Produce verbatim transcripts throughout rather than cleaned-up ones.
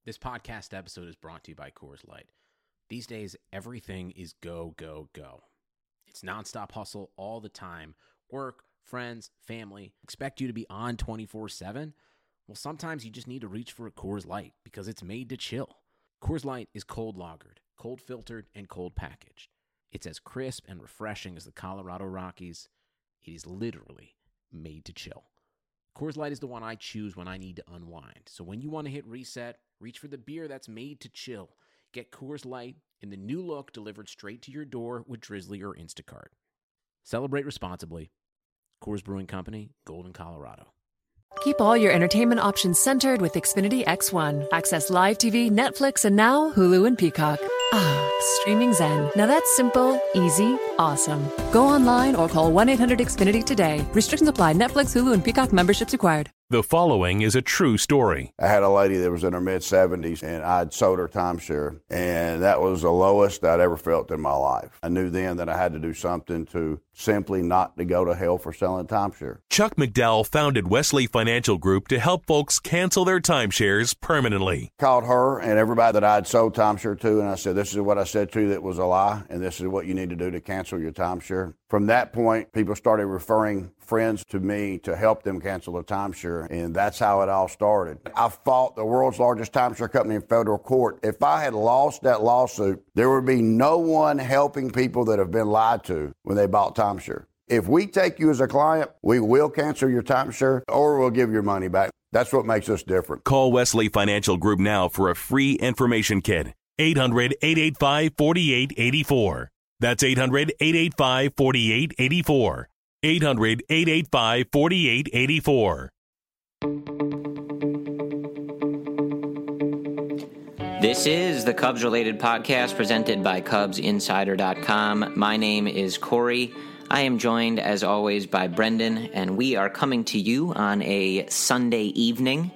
This podcast episode is brought to you by Coors Light. These days, everything is go, go, go. It's nonstop hustle all the time. Work, friends, family, expect you to be on twenty-four seven. Well, sometimes you just need to reach for a Coors Light because it's made to chill. Coors Light is cold lagered, cold filtered, and cold packaged. It's as crisp and refreshing as the Colorado Rockies. It is literally made to chill. Coors Light is the one I choose when I need to unwind. So when you want to hit reset, reach for the beer that's made to chill. Get Coors Light in the new look delivered straight to your door with Drizzly or Instacart. Celebrate responsibly. Coors Brewing Company, Golden, Colorado. Keep all your entertainment options centered with Xfinity X one. Access live T V, Netflix, and now Hulu and Peacock. Ah, streaming zen. Now that's simple, easy, awesome. Go online or call one eight hundred X Finity today. Restrictions apply. Netflix, Hulu, and Peacock memberships required. The following is a true story. I had a lady that was in her mid-seventies, and I'd sold her timeshare, and that was the lowest I'd ever felt in my life. I knew then that I had to do something to simply not to go to hell for selling timeshare. Chuck McDowell founded Wesley Financial Group to help folks cancel their timeshares permanently. Called her and everybody that I'd sold timeshare to, and I said, this is what I said to you that was a lie, and this is what you need to do to cancel your timeshare. From that point, people started referring friends to me to help them cancel their timeshare, and that's how it all started. I fought the world's largest timeshare company in federal court. If I had lost that lawsuit, there would be no one helping people that have been lied to when they bought timeshare. If we take you as a client, we will cancel your timeshare or we'll give your money back. That's what makes us different. Call Wesley Financial Group now for a free information kit. eight hundred, eight eight five, four eight eight four. That's eight hundred, eight eight five, four eight eight four. eight hundred, eight eight five, four eight eight four. This is the Cubs-related podcast presented by Cubs Insider dot com. My name is Corey. I am joined, as always, by Brendan, and we are coming to you on a Sunday evening.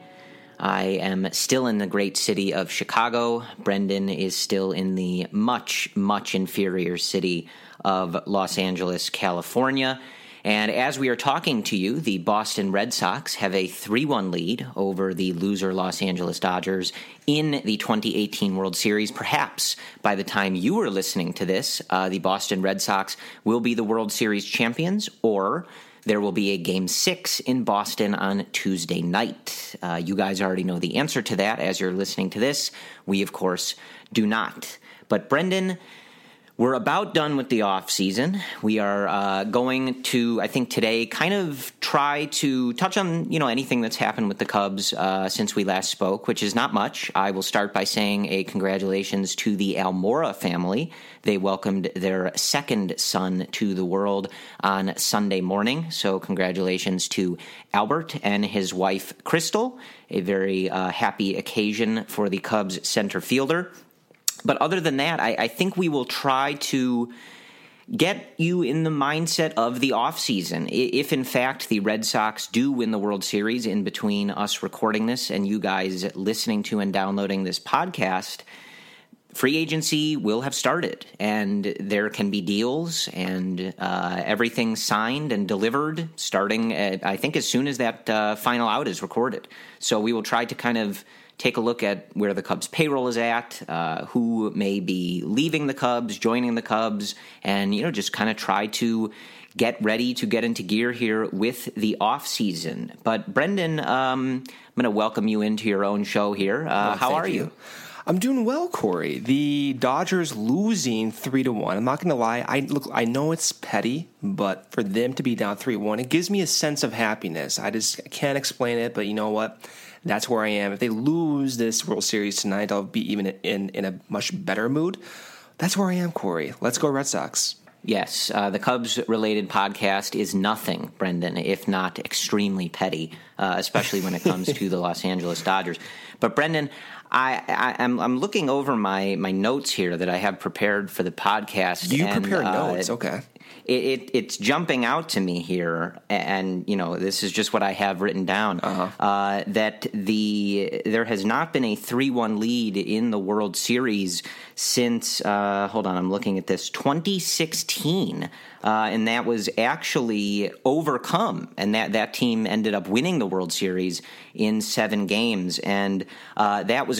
I am still in the great city of Chicago. Brendan is still in the much, much inferior city of Los Angeles, California. And as we are talking to you, the Boston Red Sox have a three one lead over the loser Los Angeles Dodgers in the twenty eighteen World Series. Perhaps by the time you are listening to this, uh, the Boston Red Sox will be the World Series champions, or there will be a Game six in Boston on Tuesday night. Uh, you guys already know the answer to that as you're listening to this. We, of course, do not. But Brendan, we're about done with the off season. We are uh, going to, I think today, kind of try to touch on, you know, anything that's happened with the Cubs uh, since we last spoke, which is not much. I will start by saying a congratulations to the Almora family. They welcomed their second son to the world on Sunday morning. So congratulations to Albert and his wife, Crystal. A very uh, happy occasion for the Cubs center fielder. But other than that, I, I think we will try to get you in the mindset of the offseason. If, in fact, the Red Sox do win the World Series in between us recording this and you guys listening to and downloading this podcast, free agency will have started, and there can be deals and uh, everything signed and delivered starting, at, I think, as soon as that uh, final out is recorded. So we will try to kind of take a look at where the Cubs payroll is at, uh, who may be leaving the Cubs, joining the Cubs, and, you know, just kind of try to get ready to get into gear here with the off season. But Brendan, um, I'm going to welcome you into your own show here. Uh, oh, how are you? you? I'm doing well, Corey. The Dodgers losing three to one. I'm not going to lie. I look. I know it's petty, but for them to be down three one, it gives me a sense of happiness. I just can't explain it, but you know what? That's where I am. If they lose this World Series tonight, I'll be even in, in a much better mood. That's where I am, Corey. Let's go Red Sox. Yes, uh, the Cubs-related podcast is nothing, Brendan, if not extremely petty, uh, especially when it comes to the Los Angeles Dodgers. But, Brendan, I, I, I'm, I'm looking over my, my notes here that I have prepared for the podcast. You and, prepare uh, notes, okay. It, it, it's jumping out to me here, and, you know, this is just what I have written down, uh-huh. uh, that the there has not been a three one lead in the World Series since, uh, hold on, I'm looking at this, twenty sixteen, uh, and that was actually overcome, and that, that team ended up winning the World Series in seven games, and uh, that was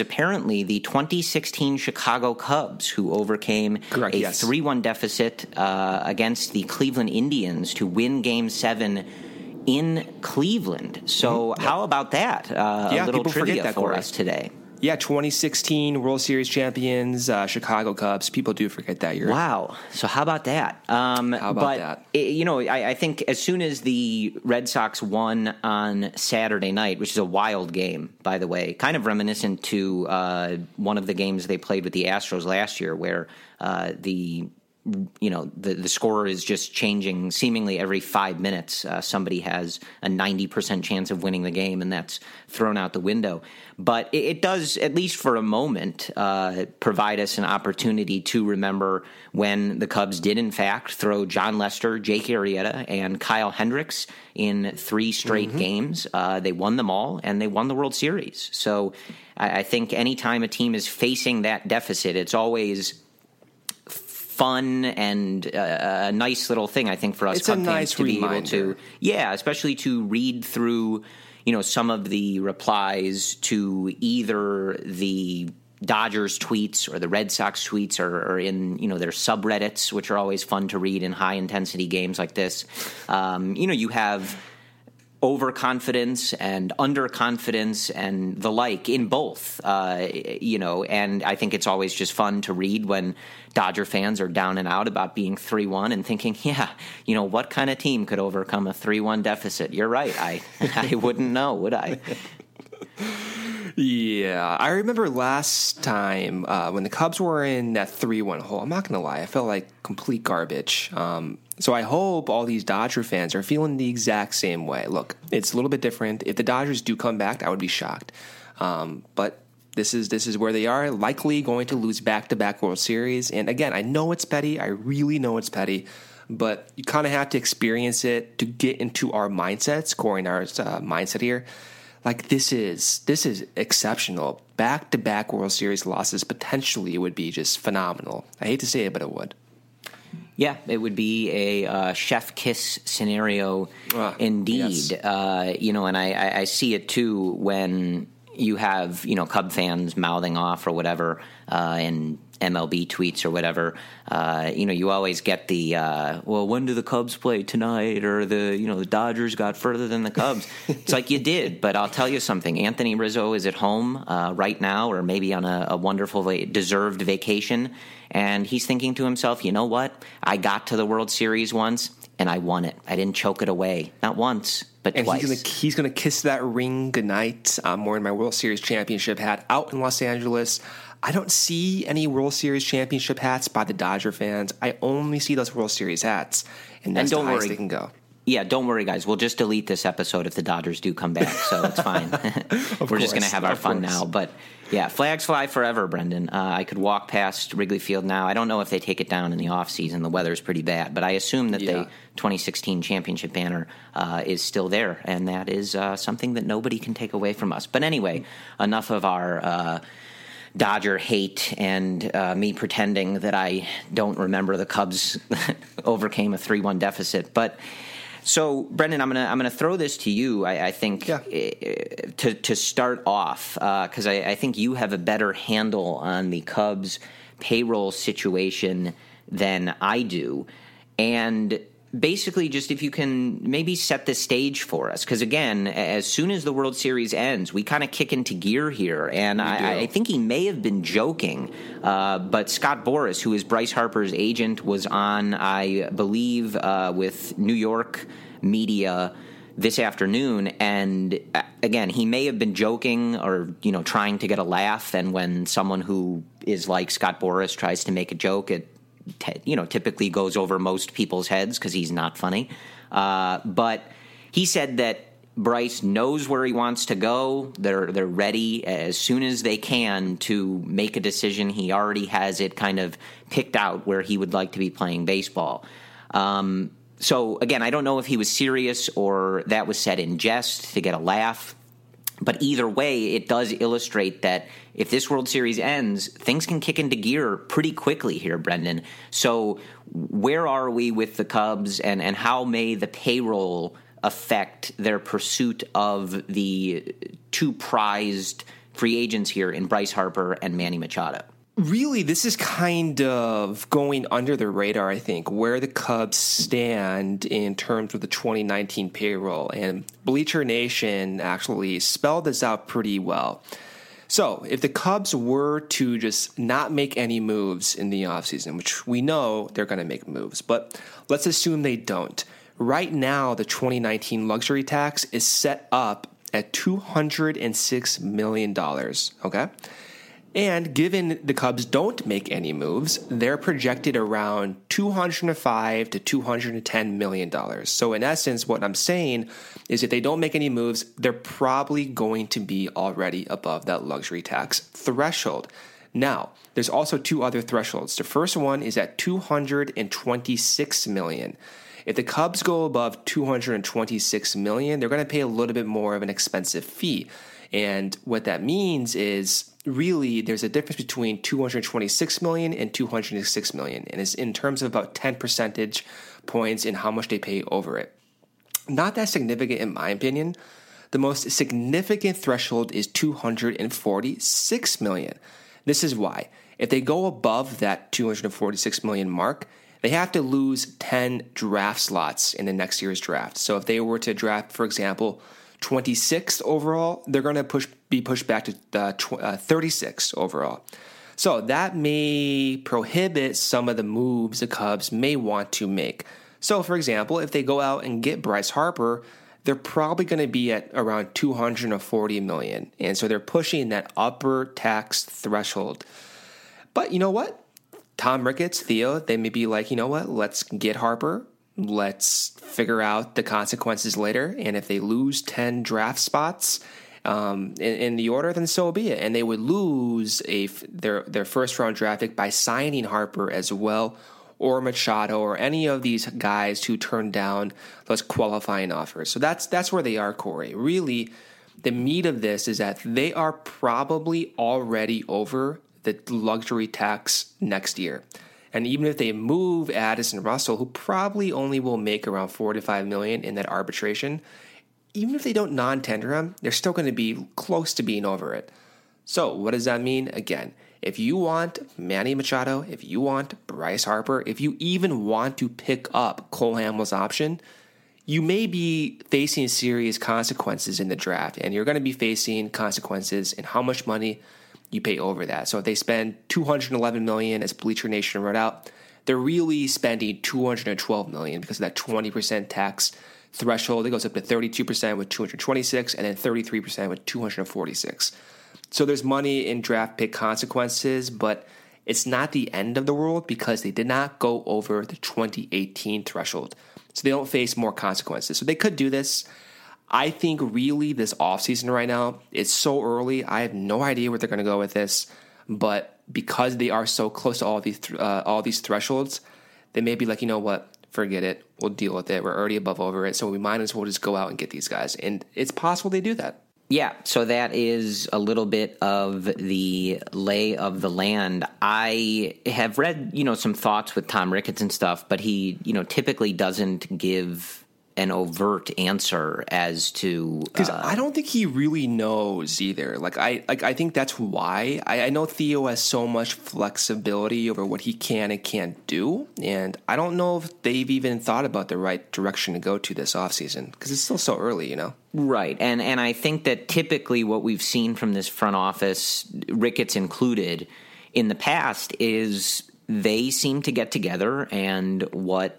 apparently the twenty sixteen Chicago Cubs who overcame Correct, a yes. three one deficit uh, against the Cleveland Indians to win Game seven in Cleveland. So Mm-hmm. how about that? Uh, Yeah, a little people forget trivia that, for Corey. us today. Yeah, twenty sixteen World Series champions, uh, Chicago Cubs. People do forget that year. Wow. So how about that? Um, How about but, that? it- you know, I, I think as soon as the Red Sox won on Saturday night, which is a wild game, by the way, kind of reminiscent to uh, one of the games they played with the Astros last year, where uh, the you know the the score is just changing seemingly every five minutes. Uh, somebody has a ninety percent chance of winning the game, and that's thrown out the window. But it, it does, at least for a moment, uh, provide us an opportunity to remember when the Cubs did in fact throw John Lester, Jake Arrieta, and Kyle Hendricks in three straight mm-hmm. games. Uh, they won them all, and they won the World Series. So I, I think anytime a team is facing that deficit, it's always fun and uh, a nice little thing, I think, for us it's Cub a fans nice to reminder. be able to, yeah, especially to read through, you know, some of the replies to either the Dodgers tweets or the Red Sox tweets or, or in, you know, their subreddits, which are always fun to read in high intensity games like this. Um, you know, you have overconfidence and underconfidence and the like in both, uh, you know, and I think it's always just fun to read when Dodger fans are down and out about being three one and thinking, yeah, you know, what kind of team could overcome a three one deficit? You're right. I, I wouldn't know, would I? Yeah, I remember last time uh, when the Cubs were in that three one hole. I'm not going to lie, I felt like complete garbage. Um, so I hope all these Dodger fans are feeling the exact same way. Look, it's a little bit different. If the Dodgers do come back, I would be shocked. Um, but this is this is where they are, likely going to lose back-to-back World Series. And again, I know it's petty. I really know it's petty. But you kind of have to experience it to get into our mindsets, Corey and our uh, mindset here. Like, this is this is exceptional. Back-to-back World Series losses potentially would be just phenomenal. I hate to say it, but it would. Yeah, it would be a uh, chef kiss scenario uh, indeed. Yes. Uh, you know, and I, I see it too when you have, you know, Cub fans mouthing off or whatever uh, in M L B tweets or whatever. Uh, you know, you always get the, uh, well, when do the Cubs play tonight? Or the, you know, the Dodgers got further than the Cubs. It's like you did, but I'll tell you something. Anthony Rizzo is at home uh, right now, or maybe on a, a wonderful, va- deserved vacation. And he's thinking to himself, you know what? I got to the World Series once, and I won it. I didn't choke it away. Not once, but and twice. he's gonna he's gonna kiss that ring goodnight. I'm wearing my World Series championship hat out in Los Angeles. I don't see any World Series championship hats by the Dodger fans. I only see those World Series hats, and that's And don't the highest worry. they can go. Yeah, don't worry, guys. We'll just delete this episode if the Dodgers do come back, so it's fine. We're course, just going to have our of fun course. now. But, yeah, flags fly forever, Brendan. Uh, I could walk past Wrigley Field now. I don't know if they take it down in the offseason. The weather's pretty bad. But I assume that Yeah. the twenty sixteen championship banner uh, is still there, and that is uh, something that nobody can take away from us. But anyway, enough of our uh, Dodger hate and uh, me pretending that I don't remember the Cubs overcame a three one deficit. But... So, Brendan, I'm gonna I'm gonna throw this to you. I, I think Yeah. uh, to to start off because uh, I, I think you have a better handle on the Cubs payroll situation than I do, and basically, just if you can maybe set the stage for us, because again, as soon as the World Series ends, we kind of kick into gear here, and I, I think he may have been joking, uh, but Scott Boras, who is Bryce Harper's agent, was on, I believe, uh, with New York media this afternoon, and uh, again, he may have been joking or, you know, trying to get a laugh, and when someone who is like Scott Boras tries to make a joke, it you know, typically goes over most people's heads because he's not funny. Uh, but he said that Bryce knows where he wants to go. They're they're ready as soon as they can to make a decision. He already has it kind of picked out where he would like to be playing baseball. Um, so, again, I don't know if he was serious or that was said in jest to get a laugh. But either way, it does illustrate that if this World Series ends, things can kick into gear pretty quickly here, Brendan. So where are we with the Cubs, and, and how may the payroll affect their pursuit of the two prized free agents here in Bryce Harper and Manny Machado. Really, this is kind of going under the radar, I think, where the Cubs stand in terms of the twenty nineteen payroll. And Bleacher Nation actually spelled this out pretty well. So if the Cubs were to just not make any moves in the offseason, which we know they're going to make moves, but let's assume they don't. Right now, the twenty nineteen luxury tax is set up at two hundred six million dollars, okay? And given the Cubs don't make any moves, they're projected around two hundred five to two hundred ten million dollars. So in essence, what I'm saying is if they don't make any moves, they're probably going to be already above that luxury tax threshold. Now, there's also two other thresholds. The first one is at two hundred twenty-six million dollars. If the Cubs go above two hundred twenty-six million dollars, they're going to pay a little bit more of an expensive fee. And what that means is really there's a difference between two hundred twenty-six million dollars and two hundred six million dollars. And it's in terms of about ten percentage points in how much they pay over it. Not that significant in my opinion. The most significant threshold is two hundred forty-six million dollars. This is why. If they go above that two hundred forty-six million dollars mark, they have to lose ten draft slots in the next year's draft. So if they were to draft, for example, twenty-sixth overall, they're going to push be pushed back to uh, tw- uh, thirty-sixth overall. So that may prohibit some of the moves the Cubs may want to make. So, for example, if they go out and get Bryce Harper, they're probably going to be at around two hundred forty million dollars. And so they're pushing that upper tax threshold. But you know what? Tom Ricketts, Theo, they may be like, you know what? Let's get Harper. Let's figure out the consequences later. And if they lose ten draft spots um, in, in the order, then so be it. And they would lose a their their first round draft pick by signing Harper as well, or Machado, or any of these guys who turned down those qualifying offers. So that's that's where they are, Corey. Really, the meat of this is that they are probably already over the luxury tax next year. And even if they move Addison Russell, who probably only will make around four to five million in that arbitration, even if they don't non-tender him, they're still going to be close to being over it. So what does that mean? Again, if you want Manny Machado, if you want Bryce Harper, if you even want to pick up Cole Hamels' option, you may be facing serious consequences in the draft, and you're going to be facing consequences in how much money you pay over that. So if they spend two hundred eleven million dollars, as Bleacher Nation wrote out, they're really spending two hundred twelve million dollars because of that twenty percent tax threshold. It goes up to thirty-two percent with two hundred twenty-six and then thirty-three percent with two hundred forty-six. So there's money in draft pick consequences, but it's not the end of the world because they did not go over the twenty eighteen threshold. So they don't face more consequences. So they could do this. I think really this offseason right now, it's so early. I have no idea where they're going to go with this. But because they are so close to all these th- uh, all these thresholds, they may be like, you know what, forget it. We'll deal with it. We're already above over it. So we might as well just go out and get these guys. And it's possible they do that. Yeah, so that is a little bit of the lay of the land. I have read, you know, some thoughts with Tom Ricketts and stuff, but he, you know, typically doesn't give an overt answer as to because uh, I don't think he really knows either. Like I, like I think that's why I, I know Theo has so much flexibility over what he can and can't do, and I don't know if they've even thought about the right direction to go to this offseason because it's still so early, you know. Right, and and I think that typically what we've seen from this front office, Ricketts included, in the past is they seem to get together and what.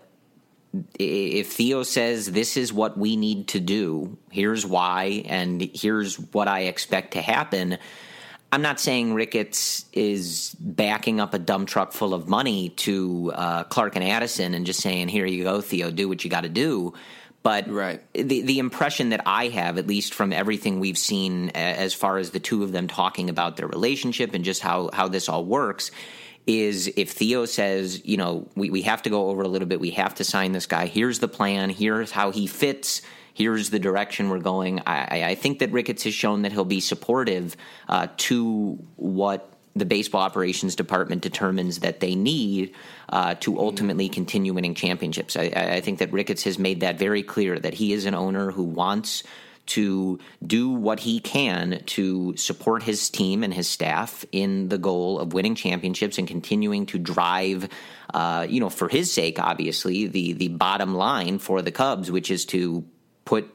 If Theo says this is what we need to do, here's why, and here's what I expect to happen, I'm not saying Ricketts is backing up a dump truck full of money to uh, Clark and Addison and just saying, here you go, Theo, do what you got to do. But right. the the impression that I have, at least from everything we've seen as far as the two of them talking about their relationship and just how, how this all works, is if Theo says, you know, we, we have to go over a little bit, we have to sign this guy, here's the plan, here's how he fits, here's the direction we're going. I, I think that Ricketts has shown that he'll be supportive uh, to what the baseball operations department determines that they need uh, to ultimately continue winning championships. I, I think that Ricketts has made that very clear, that he is an owner who wants to do what he can to support his team and his staff in the goal of winning championships and continuing to drive, uh, you know, for his sake, obviously, the the bottom line for the Cubs, which is to put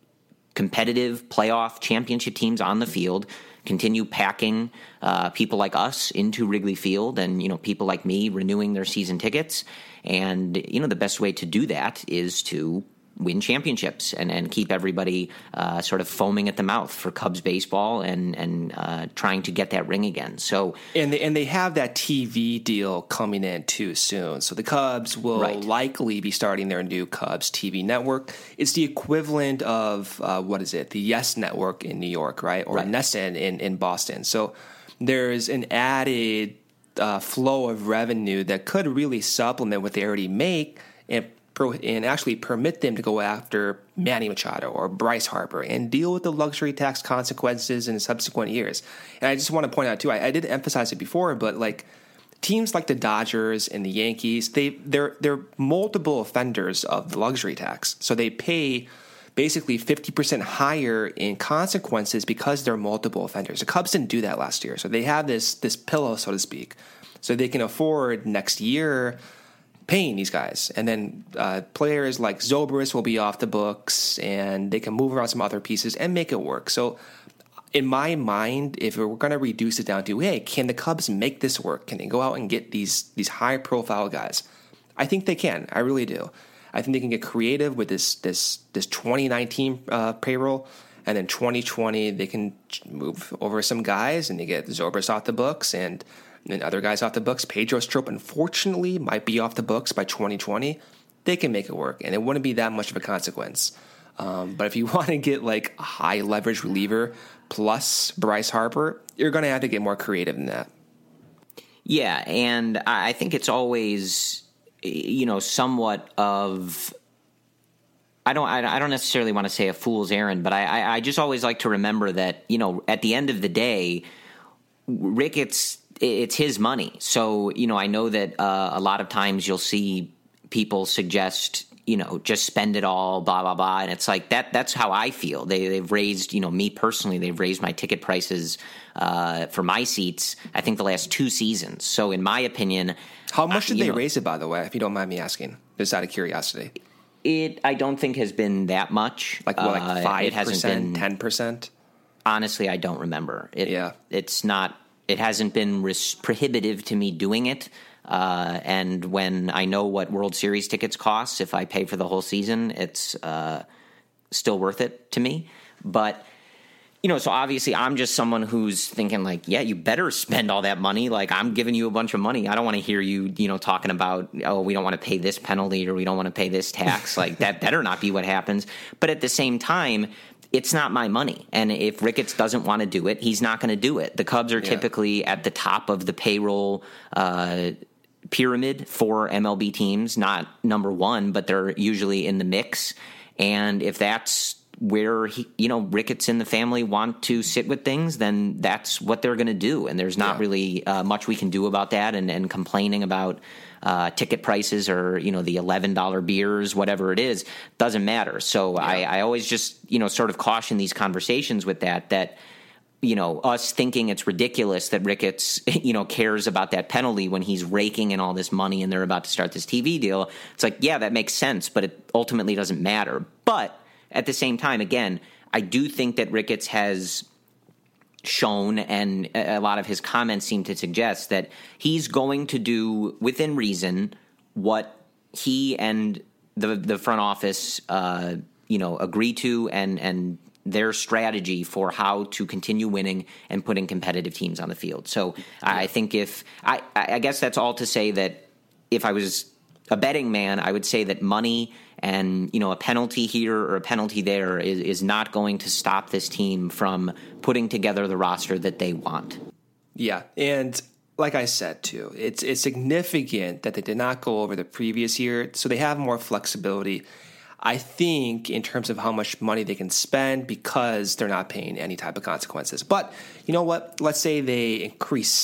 competitive playoff championship teams on the field, continue packing uh, people like us into Wrigley Field, and, you know, people like me renewing their season tickets. And, you know, the best way to do that is to win championships and, and keep everybody uh, sort of foaming at the mouth for Cubs baseball and and uh, trying to get that ring again. So and they, and they have that T V deal coming in too soon. So the Cubs will right. likely be starting their new Cubs T V network. It's the equivalent of uh, what is it? The Yes Network in New York, right? Or right. NESN in in Boston. So there's an added uh, flow of revenue that could really supplement what they already make and. and actually permit them to go after Manny Machado or Bryce Harper and deal with the luxury tax consequences in subsequent years. And I just want to point out, too, I, I did emphasize it before, but like teams like the Dodgers and the Yankees, they, they're, they're multiple offenders of the luxury tax. So they pay basically fifty percent higher in consequences because they're multiple offenders. The Cubs didn't do that last year. So they have this, this pillow, so to speak, so they can afford next year paying these guys. And then uh, players like Zobrist will be off the books, and they can move around some other pieces and make it work. So in my mind, if we're going to reduce it down to, hey, can the Cubs make this work? Can they go out and get these these high-profile guys? I think they can. I really do. I think they can get creative with this this this twenty nineteen uh, payroll, and then twenty twenty they can move over some guys, and they get Zobrist off the books, and and other guys off the books. Pedro Strop, unfortunately, might be off the books by twenty twenty. They can make it work, and it wouldn't be that much of a consequence. Um, but if you want to get like a high leverage reliever plus Bryce Harper, you're going to have to get more creative than that. Yeah, and I think it's always, you know, somewhat of, I don't, I don't necessarily want to say a fool's errand, but I, I just always like to remember that, you know, at the end of the day, Ricketts, it's his money. So, you know, I know that uh, a lot of times you'll see people suggest, you know, just spend it all, blah, blah, blah. And it's like that. That's how I feel. They, they've raised, you know, me personally, they've raised my ticket prices uh, for my seats, I think the last two seasons. So in my opinion. How much did I, they know, raise it, by the way, if you don't mind me asking, just out of curiosity? It, I don't think has been that much. Like, what, like five percent, uh, it hasn't been, ten percent? Honestly, I don't remember. It, yeah. It's not. It hasn't been res- prohibitive to me doing it. Uh, and when I know what World Series tickets cost, if I pay for the whole season, it's uh, still worth it to me. But, you know, so obviously I'm just someone who's thinking like, yeah, you better spend all that money. Like, I'm giving you a bunch of money. I don't want to hear you, you know, talking about, oh, we don't want to pay this penalty or we don't want to pay this tax. Like, that better not be what happens. But at the same time, it's not my money. And if Ricketts doesn't want to do it, he's not going to do it. The Cubs are yeah. typically at the top of the payroll uh, pyramid for M L B teams, not number one, but they're usually in the mix. And if that's where, he, you know, Ricketts and the family want to sit with things, then that's what they're going to do. And there's not yeah. really uh, much we can do about that. And, and complaining about Uh, ticket prices or, you know, the eleven dollar beers, whatever it is, doesn't matter. So yeah. I, I always just, you know, sort of caution these conversations with that, that, you know, us thinking it's ridiculous that Ricketts, you know, cares about that penalty when he's raking in all this money and they're about to start this T V deal. It's like, yeah, that makes sense, but it ultimately doesn't matter. But at the same time, again, I do think that Ricketts has shown, and a lot of his comments seem to suggest that he's going to do within reason what he and the the front office, uh, you know, agree to, and and their strategy for how to continue winning and putting competitive teams on the field. So I think if I, I guess that's all to say that if I was a betting man, I would say that money and, you know, a penalty here or a penalty there is, is not going to stop this team from putting together the roster that they want. Yeah, and like I said, too, it's it's significant that they did not go over the previous year, so they have more flexibility, I think, in terms of how much money they can spend because they're not paying any type of consequences. But you know what? Let's say they increase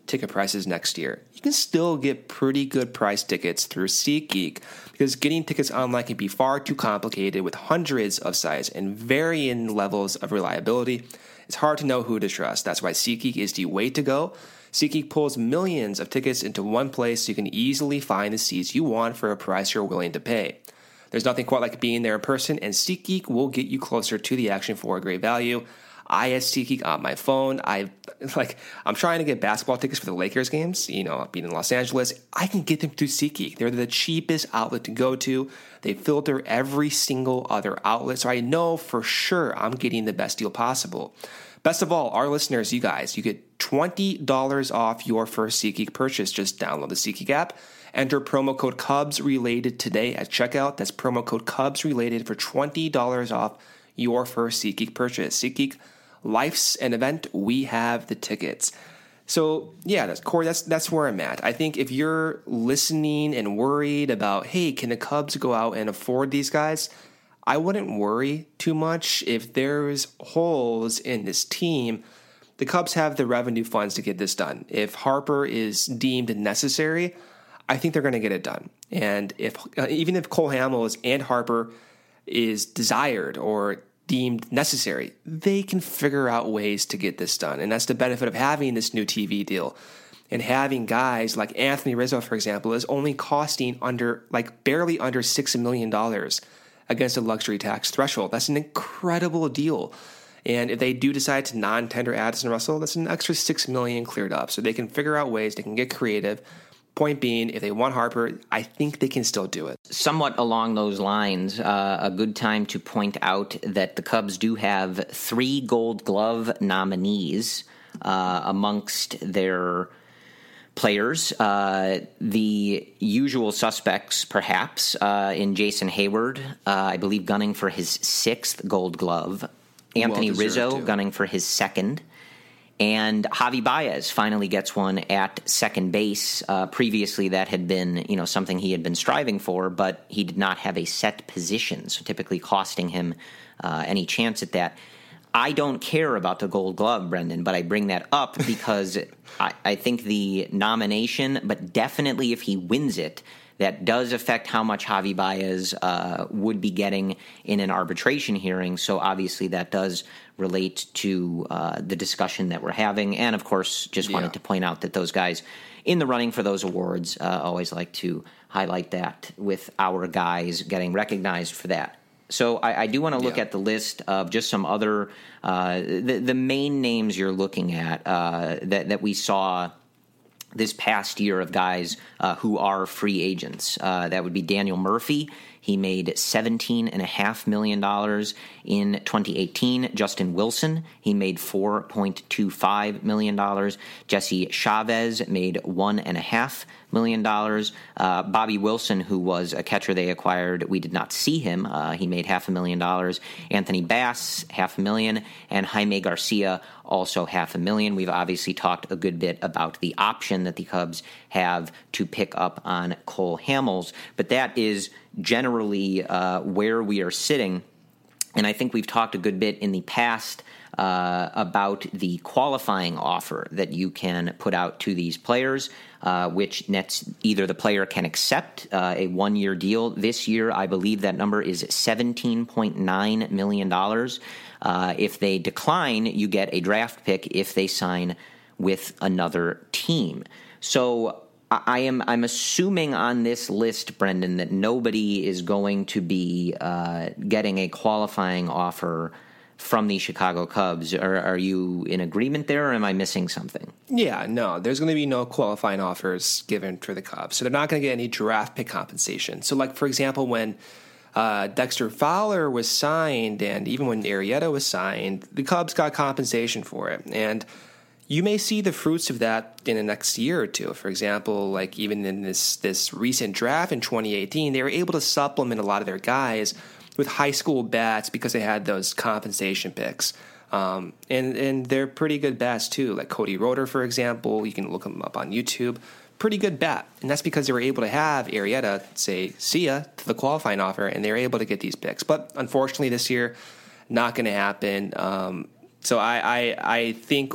ticket prices next year, you can still get pretty good price tickets through SeatGeek, because getting tickets online can be far too complicated with hundreds of sites and varying levels of reliability. It's hard to know who to trust. That's why SeatGeek is the way to go. SeatGeek pulls millions of tickets into one place so you can easily find the seats you want for a price you're willing to pay. There's nothing quite like being there in person, and SeatGeek will get you closer to the action for a great value. I have SeatGeek on my phone. I like I'm trying to get basketball tickets for the Lakers games, you know, being in Los Angeles. I can get them through SeatGeek. They're the cheapest outlet to go to. They filter every single other outlet, so I know for sure I'm getting the best deal possible. Best of all, our listeners, you guys, you get twenty dollars off your first SeatGeek purchase. Just download the SeatGeek app. Enter promo code CubsRelated today at checkout. That's promo code CubsRelated for twenty dollars off your first SeatGeek purchase. SeatGeek, life's an event. We have the tickets. So, yeah, that's, Corey, that's, that's where I'm at. I think if you're listening and worried about, hey, can the Cubs go out and afford these guys? I wouldn't worry too much. If there's holes in this team, the Cubs have the revenue funds to get this done. If Harper is deemed necessary, I think they're going to get it done. And if uh, even if Cole Hamels and Harper is desired or deemed necessary, they can figure out ways to get this done. And that's the benefit of having this new T V deal. And having guys like Anthony Rizzo, for example, is only costing under, like barely under six million dollars against a luxury tax threshold. That's an incredible deal. And if they do decide to non-tender Addison Russell, that's an extra six million dollars cleared up. So they can figure out ways, they can get creative. Point being, if they want Harper, I think they can still do it. Somewhat along those lines, uh, a good time to point out that the Cubs do have three Gold Glove nominees uh, amongst their players. Uh, the usual suspects, perhaps, uh, in Jason Hayward, uh, I believe gunning for his sixth Gold Glove. Anthony Rizzo too. gunning for his second. And Javi Baez finally gets one at second base. Uh, previously, that had been, you know, something he had been striving for, but he did not have a set position, so typically costing him uh, any chance at that. I don't care about the Gold Glove, Brendan, but I bring that up because I, I think the nomination, but definitely if he wins it, that does affect how much Javi Baez uh, would be getting in an arbitration hearing. So obviously that does relate to uh, the discussion that we're having. And, of course, just wanted yeah. to point out that those guys in the running for those awards uh, always like to highlight that with our guys getting recognized for that. So I, I do want to look yeah. at the list of just some other uh, the, the main names you're looking at uh, that, that we saw this past year of guys uh, who are free agents. Uh, that would be Daniel Murphy. He made seventeen point five million dollars in twenty eighteen. Justin Wilson, he made four point two five million dollars. Jesse Chavez made one point five million dollars. Uh, Bobby Wilson, who was a catcher they acquired, we did not see him. Uh, he made half a million dollars. Anthony Bass, half a million. And Jaime Garcia, also half a million. We've obviously talked a good bit about the option that the Cubs have to pick up on Cole Hamels, but that is generally uh, where we are sitting. And I think we've talked a good bit in the past uh, about the qualifying offer that you can put out to these players, uh, which nets either the player can accept uh, a one-year deal. This year, I believe that number is seventeen point nine million dollars. Uh, if they decline, you get a draft pick if they sign with another team. So I am I'm assuming on this list, Brendan, that nobody is going to be uh, getting a qualifying offer from the Chicago Cubs. Are, are you in agreement there, or am I missing something? Yeah, no, there's going to be no qualifying offers given for the Cubs. So they're not going to get any draft pick compensation. So, like, for example, when uh, Dexter Fowler was signed and even when Arrieta was signed, the Cubs got compensation for it. And you may see the fruits of that in the next year or two. For example, like even in this this recent draft in twenty eighteen, they were able to supplement a lot of their guys with high school bats because they had those compensation picks. Um, and, and they're pretty good bats too, like Cody Roeder, for example. You can look them up on YouTube. Pretty good bat. And that's because they were able to have Arrieta say, see ya, to the qualifying offer, and they were able to get these picks. But unfortunately this year, not going to happen. Um, so I, I, I think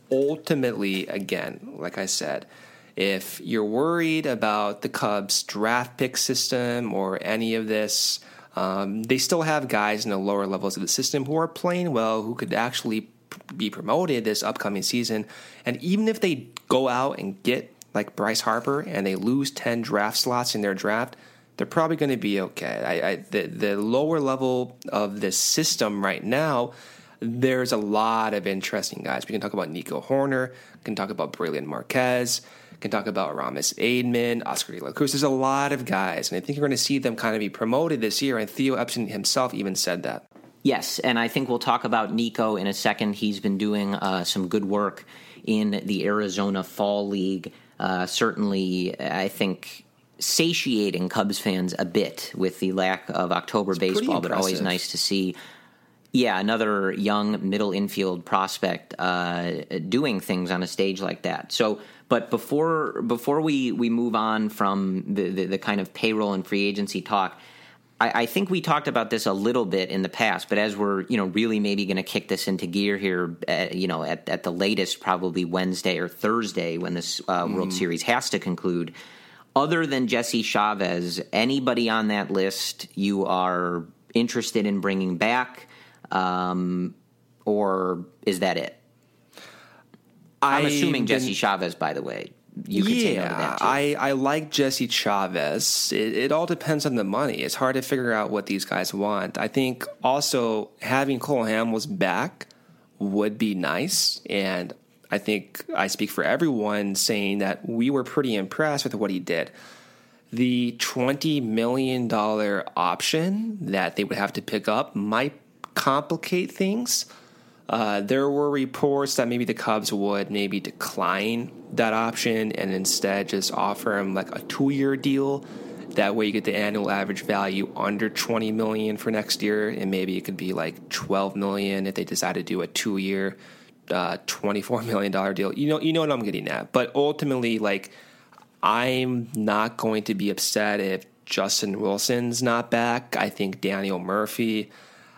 ultimately, again, like I said, if you're worried about the Cubs draft pick system or any of this, um, they still have guys in the lower levels of the system who are playing well, who could actually be promoted this upcoming season. And even if they go out and get like Bryce Harper and they lose ten draft slots in their draft, they're probably going to be okay. I, I, the, the lower level of this system right now, there's a lot of interesting guys. We can talk about Nico Hoerner, we can talk about Brailyn Marquez, we can talk about Aramis Aidman, Oscar De La Cruz. There's a lot of guys, and I think you're going to see them kind of be promoted this year, and Theo Epstein himself even said that. Yes, and I think we'll talk about Nico in a second. He's been doing uh, some good work in the Arizona Fall League. Uh, certainly, I think, satiating Cubs fans a bit with the lack of October it's baseball, but always nice to see. Yeah, another young middle infield prospect uh, doing things on a stage like that. So, but before before we, we move on from the, the, the kind of payroll and free agency talk, I, I think we talked about this a little bit in the past. But as we're you know really maybe going to kick this into gear here, at, you know at, at the latest probably Wednesday or Thursday when this uh, mm. World Series has to conclude. Other than Jesse Chavez, anybody on that list you are interested in bringing back? Um, or is that it? I'm assuming been, Jesse Chavez, by the way. You could yeah, say no to that too. I, I like Jesse Chavez. It, it all depends on the money. It's hard to figure out what these guys want. I think also having Cole Hamels back would be nice. And I think I speak for everyone saying that we were pretty impressed with what he did. The twenty million dollars option that they would have to pick up might complicate things. Uh, there were reports that maybe the Cubs would maybe decline that option and instead just offer him like a two-year deal. That way you get the annual average value under twenty million dollars for next year, and maybe it could be like twelve million dollars if they decide to do a two-year, uh, twenty-four million dollars deal. You know, you know what I'm getting at. But ultimately, like, I'm not going to be upset if Justin Wilson's not back. I think Daniel Murphy,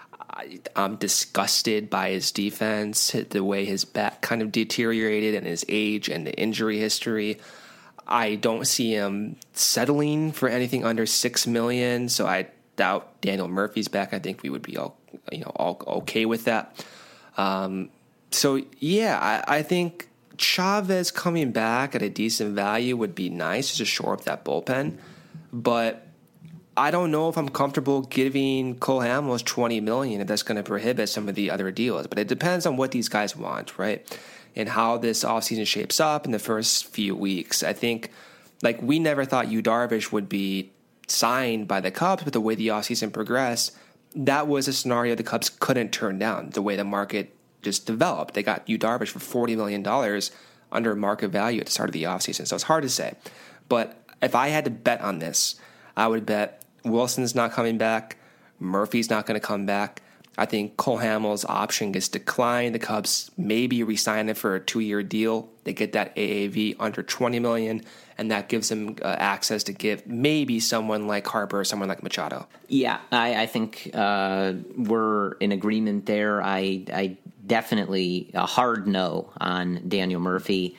I'm disgusted by his defense, the way his back kind of deteriorated and his age and the injury history. I don't see him settling for anything under six million dollars, so I doubt Daniel Murphy's back. I think we would be all, you know, all okay with that. Um, so, yeah, I, I think Chavez coming back at a decent value would be nice to shore up that bullpen, but I don't know if I'm comfortable giving Cole Hamels twenty million dollars if that's going to prohibit some of the other deals. But it depends on what these guys want, right? And how this offseason shapes up in the first few weeks. I think, like, we never thought Yu Darvish would be signed by the Cubs, but the way the offseason progressed, that was a scenario the Cubs couldn't turn down, the way the market just developed. They got Yu Darvish for forty million dollars under market value at the start of the offseason. So it's hard to say. But if I had to bet on this, I would bet Wilson's not coming back. Murphy's not going to come back. I think Cole Hamels' option gets declined. The Cubs maybe re-sign him for a two-year deal. They get that A A V under twenty million dollars, and that gives them uh, access to give maybe someone like Harper or someone like Machado. Yeah, I, I think uh, we're in agreement there. I, I definitely a hard no on Daniel Murphy,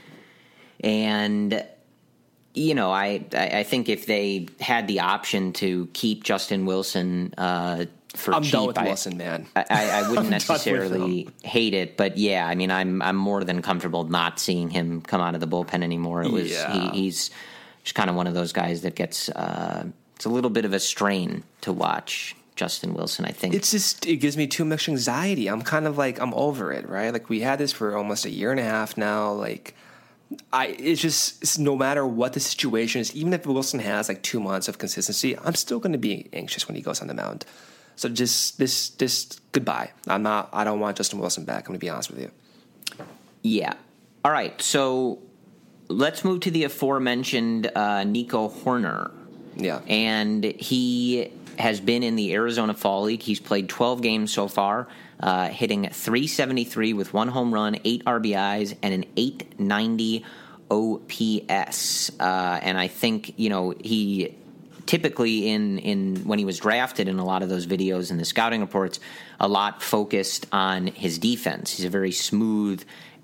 and you know, I I think if they had the option to keep Justin Wilson uh, for I'm cheap, done with I, Wilson, man. I, I wouldn't necessarily hate it, but yeah, I mean, I'm I'm more than comfortable not seeing him come out of the bullpen anymore. It was yeah. he, he's just kind of one of those guys that gets uh, it's a little bit of a strain to watch Justin Wilson. I think it's just it gives me too much anxiety. I'm kind of like I'm over it, right? Like we had this for almost a year and a half now, like. I it's just it's no matter what the situation is, even if Wilson has like two months of consistency, I'm still going to be anxious when he goes on the mound. So just this this goodbye. I'm not. I don't want Justin Wilson back. I'm going to be honest with you. Yeah. All right. So let's move to the aforementioned uh, Nico Hoerner. Yeah. And he has been in the Arizona Fall League. He's played twelve games so far. Uh, hitting three seventy-three with one home run, eight R B Is, and an eight ninety O P S. Uh, and I think, you know, he typically in, in when he was drafted in a lot of those videos and the scouting reports, a lot focused on his defense. He's a very smooth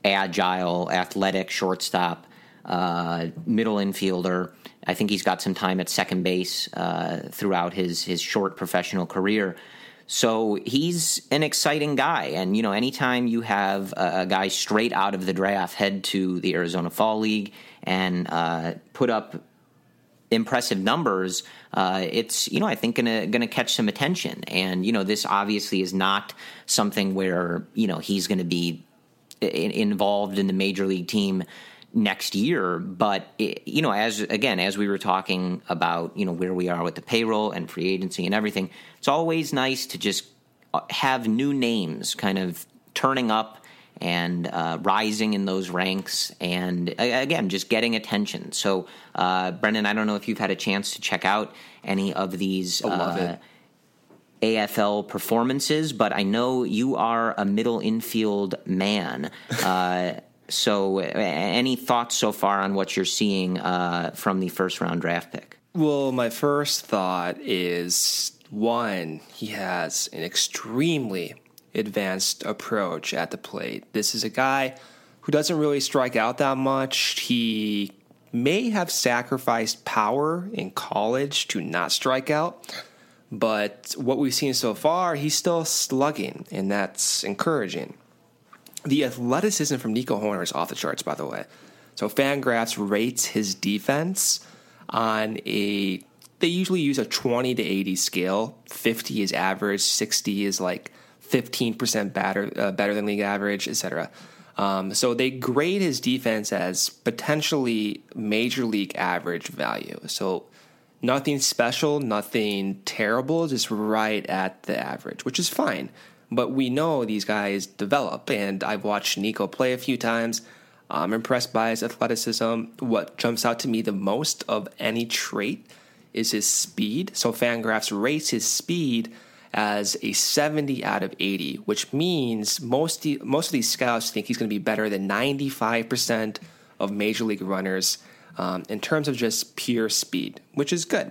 agile, athletic shortstop, uh, middle infielder. I think he's got some time at second base uh, throughout his his short professional career. So he's an exciting guy. And, you know, anytime you have a, a guy straight out of the draft head to the Arizona Fall League and uh, put up impressive numbers, uh, it's, you know, I think gonna gonna catch some attention. And, you know, this obviously is not something where, you know, he's going to be in, involved in the major league team next year. But, it, you know, as again, as we were talking about, you know, where we are with the payroll and free agency and everything, it's always nice to just have new names kind of turning up and uh, rising in those ranks and, again, just getting attention. So, uh, Brendan, I don't know if you've had a chance to check out any of these uh, A F L performances, but I know you are a middle infield man. Uh, so any thoughts so far on what you're seeing uh, from the first-round draft pick? Well, my first thought is, one, he has an extremely advanced approach at the plate. This is a guy who doesn't really strike out that much. He may have sacrificed power in college to not strike out, but what we've seen so far, he's still slugging, and that's encouraging. The athleticism from Nico Hoerner is off the charts, by the way. So Fangraphs rates his defense on a, they usually use a twenty to eighty scale. fifty is average, sixty is like fifteen percent better, uh, better than league average, et cetera. Um, so they grade his defense as potentially major league average value. So nothing special, nothing terrible, just right at the average, which is fine. But we know these guys develop, and I've watched Nico play a few times. I'm impressed by his athleticism. What jumps out to me the most of any trait is his speed. So Fangraphs rates his speed as a seventy out of eighty, which means most most of these scouts think he's going to be better than ninety-five percent of major league runners um, in terms of just pure speed, which is good.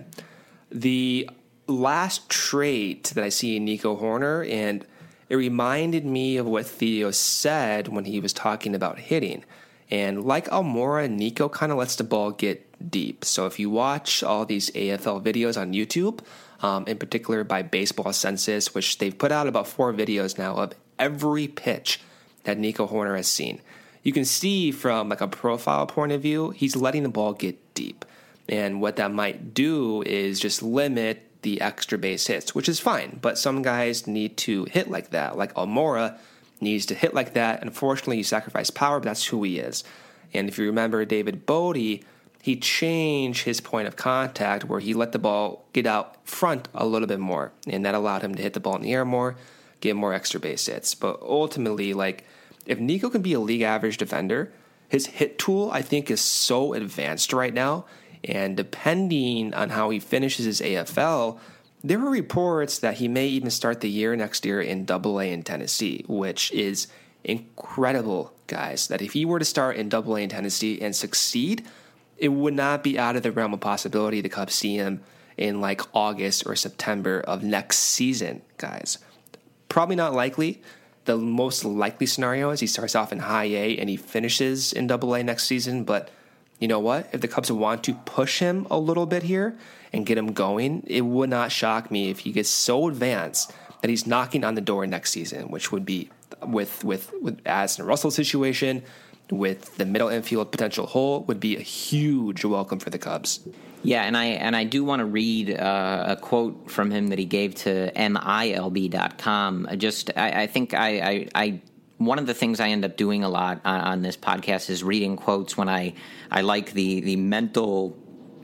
The last trait that I see in Nico Hoerner, and it reminded me of what Theo said when he was talking about hitting. And like Almora, Nico kind of lets the ball get deep. So if you watch all these A F L videos on YouTube, um, in particular by Baseball Census, which they've put out about four videos now of every pitch that Nico Hoerner has seen, you can see from like a profile point of view, he's letting the ball get deep. And what that might do is just limit the extra base hits, which is fine. But some guys need to hit like that. Like Almora needs to hit like that. Unfortunately, you sacrifice power, but that's who he is. And if you remember David Bodie, he changed his point of contact where he let the ball get out front a little bit more. And that allowed him to hit the ball in the air more, get more extra base hits. But ultimately, like, if Nico can be a league average defender, his hit tool, I think, is so advanced right now. And depending on how he finishes his A F L, there were reports that he may even start the year next year in Double A in Tennessee, which is incredible, guys. That if he were to start in Double A in Tennessee and succeed, it would not be out of the realm of possibility the Cubs see him in like August or September of next season, guys. Probably not likely. The most likely scenario is he starts off in High A and he finishes in Double A next season, but you know what? If the Cubs want to push him a little bit here and get him going, it would not shock me if he gets so advanced that he's knocking on the door next season, which would be with with with Addison Russell's situation, with the middle infield potential hole, would be a huge welcome for the Cubs. Yeah, and I and I do want to read uh, a quote from him that he gave to M I L B dot com. Just I, I think I. I, I One of the things I end up doing a lot on, on this podcast is reading quotes when I, I like the, the mental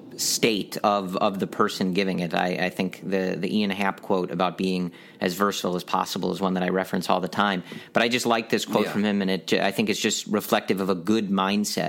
state of, of the person giving it. I, I think the, the Ian Happ quote about being as versatile as possible is one that I reference all the time. But I just like this quote yeah. from him, and it I think it's just reflective of a good mindset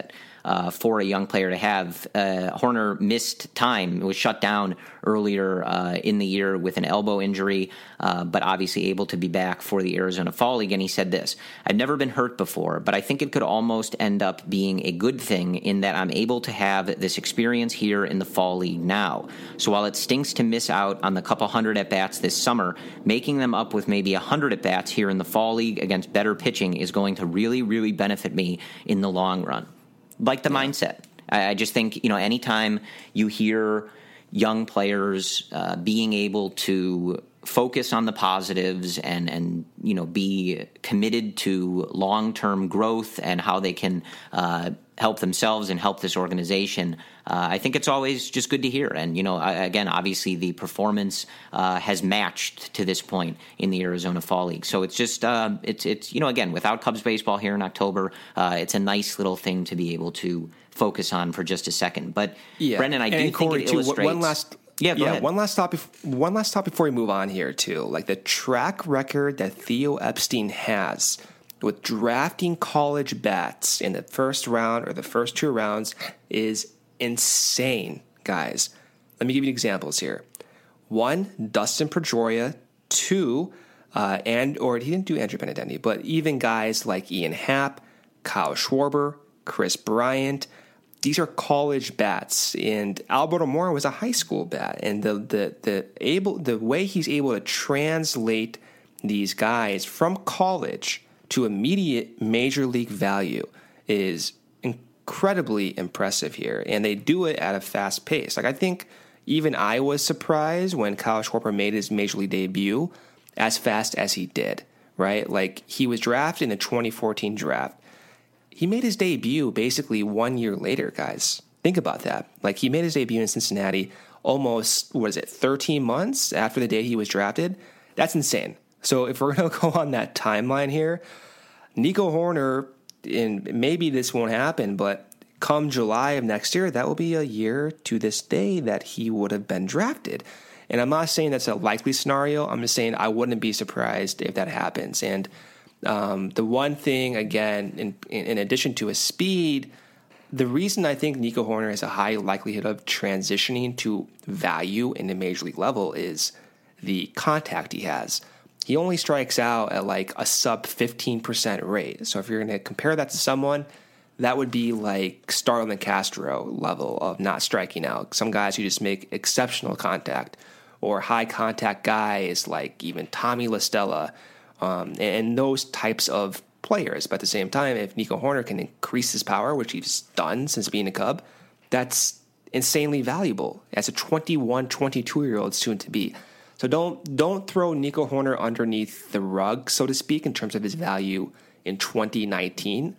uh, for a young player to have. Uh, Hoerner missed time, was shut down earlier uh, in the year with an elbow injury, uh, but obviously able to be back for the Arizona Fall League. And he said this: "I've never been hurt before, but I think it could almost end up being a good thing in that I'm able to have this experience here in the Fall League now. So while it stinks to miss out on the couple hundred at-bats this summer, making them up with maybe a hundred at-bats here in the Fall League against better pitching is going to really, really benefit me in the long run." Like the yeah. mindset. I, I just think, you know, anytime you hear young players uh, being able to focus on the positives and, and you know, be committed to long-term growth and how they can uh, help themselves and help this organization, uh, I think it's always just good to hear. And, you know, I, again, obviously the performance uh, has matched to this point in the Arizona Fall League. So it's just, uh, it's, it's you know, again, without Cubs baseball here in October, uh, it's a nice little thing to be able to focus on for just a second. But, yeah. Brendan, I and do think Corey, it too, illustrates... One last... Yeah, go yeah. ahead. One last stop. One last stop before we move on here too. Like the track record that Theo Epstein has with drafting college bats in the first round or the first two rounds is insane, guys. Let me give you examples here. One, Dustin Pedroia. Two, uh, and or he didn't do Andrew Benintendi, but even guys like Ian Happ, Kyle Schwarber, Chris Bryant. These are college bats, and Alberto Mora was a high school bat, and the the the able the way he's able to translate these guys from college to immediate major league value is incredibly impressive here, and they do it at a fast pace. Like I think even I was surprised when Kyle Schwarber made his major league debut as fast as he did. Right, like he was drafted in the twenty fourteen draft. He made his debut basically one year later, guys. Think about that. Like, he made his debut in Cincinnati almost, what is it, thirteen months after the day he was drafted? That's insane. So if we're going to go on that timeline here, Nico Hoerner, and maybe this won't happen, but come July of next year, that will be a year to this day that he would have been drafted. And I'm not saying that's a likely scenario. I'm just saying I wouldn't be surprised if that happens. And Um, the one thing, again, in, in addition to his speed, the reason I think Nico Hoerner has a high likelihood of transitioning to value in the major league level is the contact he has. He only strikes out at like a sub fifteen percent rate. So if you're going to compare that to someone, that would be like Starlin Castro level of not striking out. Some guys who just make exceptional contact, or high contact guys like even Tommy La Stella. Um, and those types of players. But at the same time, if Nico Hoerner can increase his power, which he's done since being a Cub, that's insanely valuable as a twenty-one, twenty-two-year-old soon to be. So don't don't throw Nico Hoerner underneath the rug, so to speak, in terms of his value in twenty nineteen.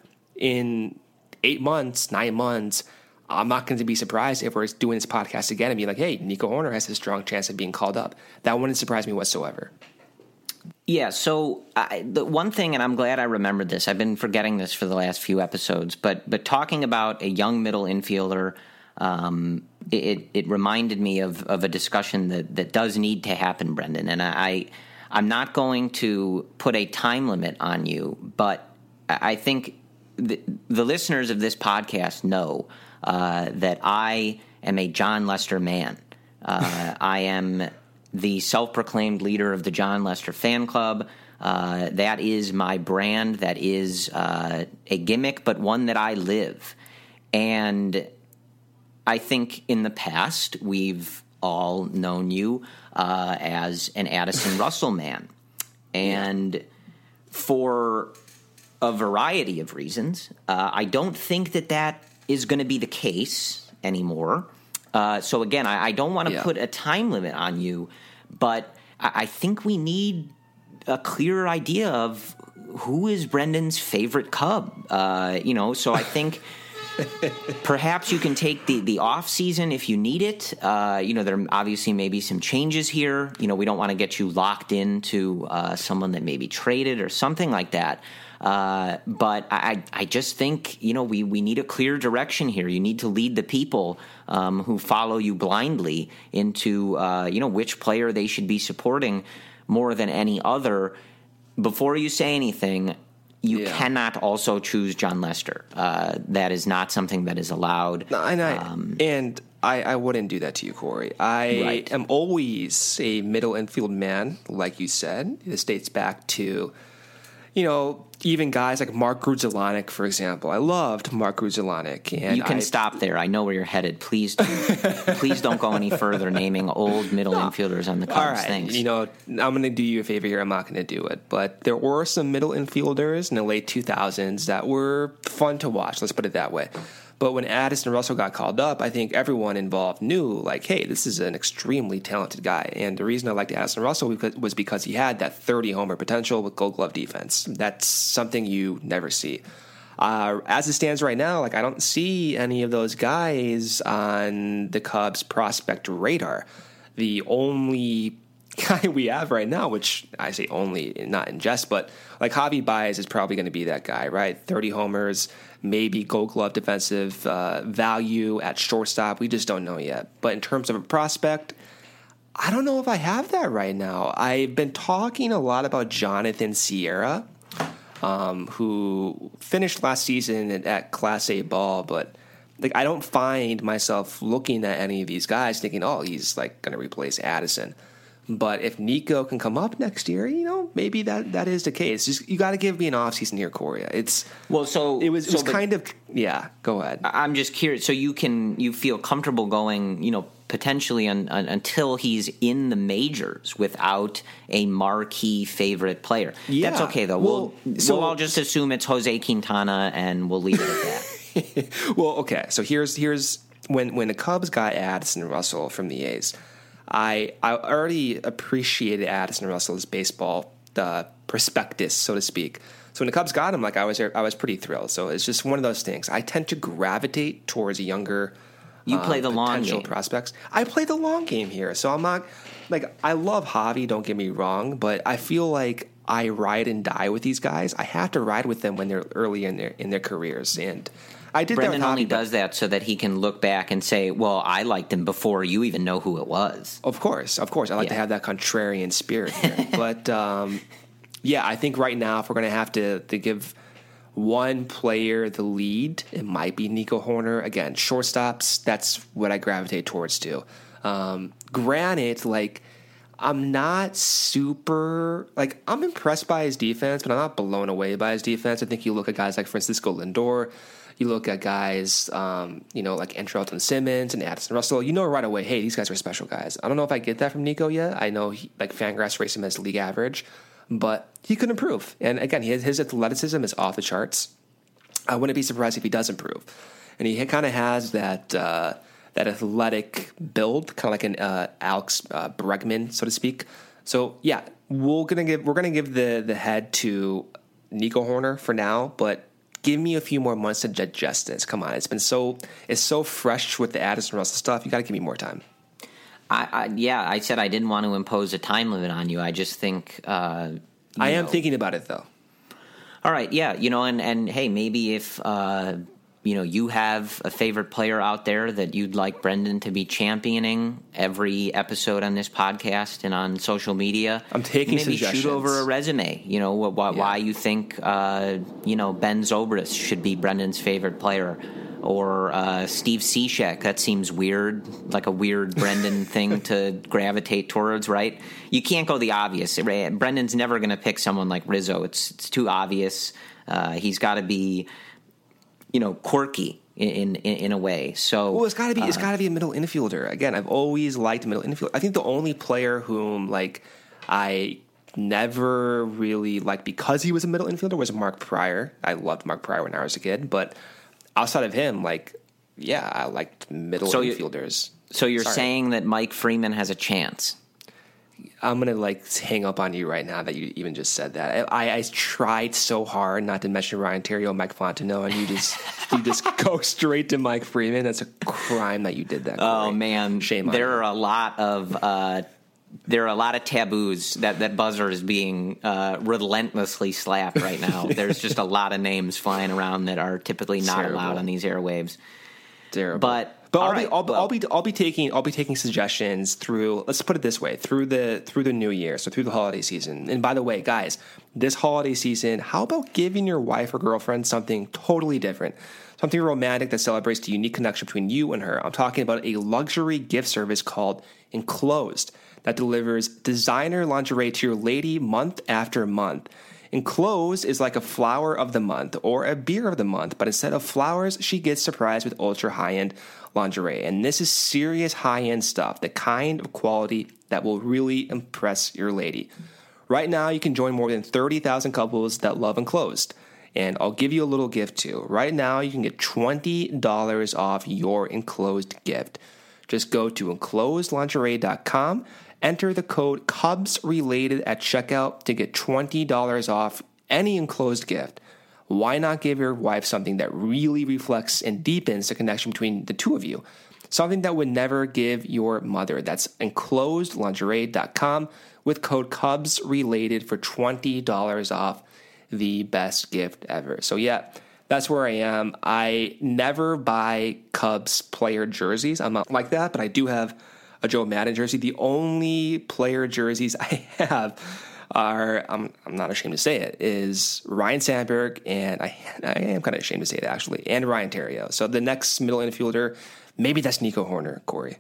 In eight months, nine months, I'm not going to be surprised if we're doing this podcast again and be like, hey, Nico Hoerner has a strong chance of being called up. That wouldn't surprise me whatsoever. Yeah, so I, the one thing, and I'm glad I remembered this, I've been forgetting this for the last few episodes, but but talking about a young middle infielder, um, it it reminded me of, of a discussion that, that does need to happen, Brendan. And I, I'm not going to put a time limit on you, but I think the, the listeners of this podcast know uh, that I am a Jon Lester man. Uh, I am the self-proclaimed leader of the Jon Lester fan club. Uh, that is my brand. That is uh, a gimmick, but one that I live. And I think in the past, we've all known you uh, as an Addison Russell man. And for a variety of reasons, uh, I don't think that that is going to be the case anymore. Uh, so again, I, I don't want to yeah. put a time limit on you, but I, I think we need a clearer idea of who is Brendan's favorite Cub. Uh, you know, so I think perhaps you can take the, the off season if you need it. Uh, you know, there obviously may be some changes here. You know, we don't want to get you locked into uh, someone that may be traded or something like that. Uh, but I, I just think, you know, we, we need a clear direction here. You need to lead the people um, who follow you blindly into, uh, you know, which player they should be supporting more than any other. Before you say anything, you yeah. cannot also choose John Lester. Uh, that is not something that is allowed. No, and I, um, and I, I wouldn't do that to you, Corey. I Right. am always a middle infield man, like you said. This dates back to, you know, even guys like Mark Grudzielanek, for example. I loved Mark Grudzielanek. And you can I, stop there. I know where you're headed. Please, don't, please don't go any further naming old middle infielders on the Cubs. All right, Thanks. you know, I'm going to do you a favor here. I'm not going to do it. But there were some middle infielders in the late two thousands that were fun to watch. Let's put it that way. But when Addison Russell got called up, I think everyone involved knew, like, hey, this is an extremely talented guy. And the reason I liked Addison Russell was because he had that thirty homer potential with Gold Glove defense. That's something you never see. Uh, as it stands right now, like, I don't see any of those guys on the Cubs prospect radar. The only guy we have right now, which I say only, not in jest, but like Javi Baez is probably going to be that guy, right? thirty homers, maybe Gold Glove defensive uh, value at shortstop. We just don't know yet. But in terms of a prospect, I don't know if I have that right now. I've been talking a lot about Jonathan Sierra, um, who finished last season at, at Class A ball, but like I don't find myself looking at any of these guys thinking, oh, he's like going to replace Addison. But if Nico can come up next year, you know, maybe that, that is the case. Just you got to give me an offseason here, Corey. It's well, so it was it so was the, kind of yeah. Go ahead. I'm just curious. So you can you feel comfortable going, you know, potentially un, un, until he's in the majors without a marquee favorite player. Yeah. That's okay though. Well, we'll so, we'll all just assume it's Jose Quintana and we'll leave it at that. Well, okay. So here's here's when when the Cubs got Addison Russell from the A's. I I already appreciated Addison Russell's baseball uh, prospectus, so to speak. So when the Cubs got him, like I was I was pretty thrilled. So it's just one of those things. I tend to gravitate towards younger. You play um, the long potential game. prospects. I play the long game here, so I'm not like I love Javi. Don't get me wrong, but I feel like I ride and die with these guys. I have to ride with them when they're early in their in their careers, and I did Brendan that with only Javi, does that so that he can look back and say, well, I liked him before you even know who it was. Of course, of course. I like Yeah. to have that contrarian spirit here. But, um, yeah, I think right now if we're going to have to to give one player the lead, it might be Nico Horner. Again, shortstops, that's what I gravitate towards too. Um, granted, like, I'm not super, like, I'm impressed by his defense, but I'm not blown away by his defense. I think you look at guys like Francisco Lindor, you look at guys, um, you know, like Andrelton Simmons and Addison Russell, you know right away, hey, these guys are special guys. I don't know if I get that from Nico yet. I know, he, like, Fangraphs rates him as league average, but he could improve. And again, his, his athleticism is off the charts. I wouldn't be surprised if he does improve. And he kind of has that uh, that athletic build, kind of like an uh, Alex uh, Bregman, so to speak. So, yeah, we're gonna give we're gonna give the the head to Nico Horner for now, but give me a few more months to digest this. Come on, it's been so it's so fresh with the Addison Russell stuff. You got to give me more time. I, I, yeah, I said I didn't want to impose a time limit on you. I just think uh, I am know. thinking about it though. All right, yeah, you know, and, and hey, maybe if uh, you know you have a favorite player out there that you'd like Brendan to be championing every episode on this podcast and on social media, I'm taking maybe suggestions. shoot over a resume. You know wh- wh- Yeah. why you think uh, you know Ben Zobrist should be Brendan's favorite player. Or uh, Steve Cishek. That seems weird, like a weird Brendan thing to gravitate towards, right? You can't go the obvious. Brendan's never going to pick someone like Rizzo. It's it's too obvious. Uh, he's got to be, you know, quirky in in, in a way. So Well, it's got to be. It's uh, got to be a middle infielder. Again, I've always liked middle infield. I think the only player whom like I never really liked because he was a middle infielder was Mark Pryor. I loved Mark Pryor when I was a kid, but outside of him, like, yeah, I liked middle So you- infielders. So you're Sorry. saying that Mike Freeman has a chance? I'm gonna like hang up on you right now that you even just said that. I, I tried so hard not to mention Ryan Terrio, Mike Fontenot, and you just you just go straight to Mike Freeman. That's a crime that you did that. Oh Corey. man, shame on there you. are a lot of uh, there are a lot of taboos that that buzzer is being uh, relentlessly slapped right now. There's just a lot of names flying around that are typically not Terrible. allowed on these airwaves. Terrible. But But All I'll, right, be, I'll, well- I'll be I'll be taking I'll be taking suggestions through. Let's put it this way: through the through the new year, so through the holiday season. And by the way, guys, this holiday season, how about giving your wife or girlfriend something totally different, something romantic that celebrates the unique connection between you and her? I'm talking about a luxury gift service called Enclosed that delivers designer lingerie to your lady month after month. Enclosed is like a flower of the month or a beer of the month, but instead of flowers, she gets surprised with ultra high-end lingerie. And this is serious high-end stuff, the kind of quality that will really impress your lady. Right now, you can join more than thirty thousand couples that love Enclosed. And I'll give you a little gift too. Right now, you can get twenty dollars off your Enclosed gift. Just go to enclosed lingerie dot com, enter the code CubsRelated at checkout to get twenty dollars off any Enclosed gift. Why not give your wife something that really reflects and deepens the connection between the two of you? Something that would never give your mother. That's enclosed lingerie dot com with code CubsRelated for twenty dollars off, the best gift ever. So yeah, that's where I am. I never buy Cubs player jerseys. I'm not like that, but I do have a Joe Madden jersey. The only player jerseys I have are, I'm, I'm not ashamed to say it, is Ryan Sandberg, and I, I am kind of ashamed to say it actually, and Ryan Theriot. So the next middle infielder, maybe that's Nico Horner, Corey.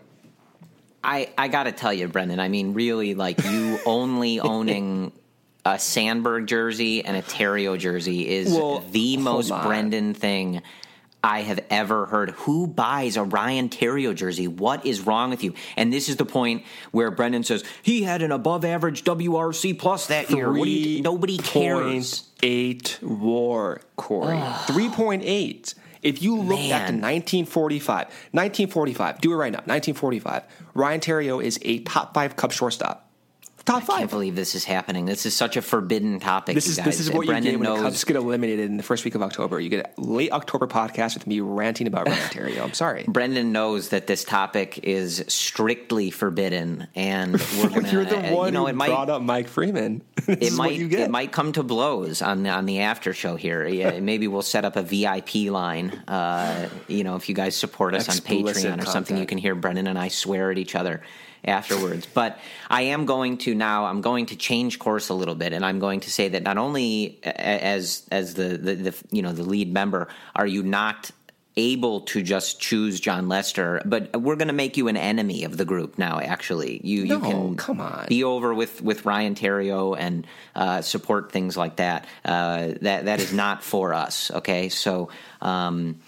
I, I got to tell you, Brendan, I mean, really, like, you only owning a Sandberg jersey and a Theriot jersey is Well, the most on. Brendan thing I have ever heard. Who buys a Ryan Theriot jersey? What is wrong with you? And this is the point where Brendan says, he had an above-average W R C plus that year. What do you, nobody cares. three point eight war, Corey. three point eight. If you look back to Man. nineteen forty-five, nineteen forty-five, do it right now, nineteen forty-five, Ryan Theriot is a top five Cub shortstop. Top I five. can't believe this is happening. This is such a forbidden topic, This you is guys. this is what Brendan you get when knows. the Cubs get eliminated in the first week of October. You get a late October podcast with me ranting about Ryan Theriot. I'm sorry. Brendan knows that this topic is strictly forbidden, and we're gonna. You're the one you know, who it might, brought up Mike Freeman. This It is might what you get. it might come to blows on the, on the after show here. Yeah, maybe we'll set up a V I P line. Uh, you know, if you guys support us Explicit on Patreon or something, content. you can hear Brendan and I swear at each other afterwards. But I am going to now. I'm going to change course a little bit, and I'm going to say that not only a- as as the the, the you know the lead member are you not able to just choose John Lester, but we're going to make you an enemy of the group now. Actually, you you No, can come on. be over with, with Ryan Theriot and uh, support things like that. Uh, that that is not for us. Okay, so um,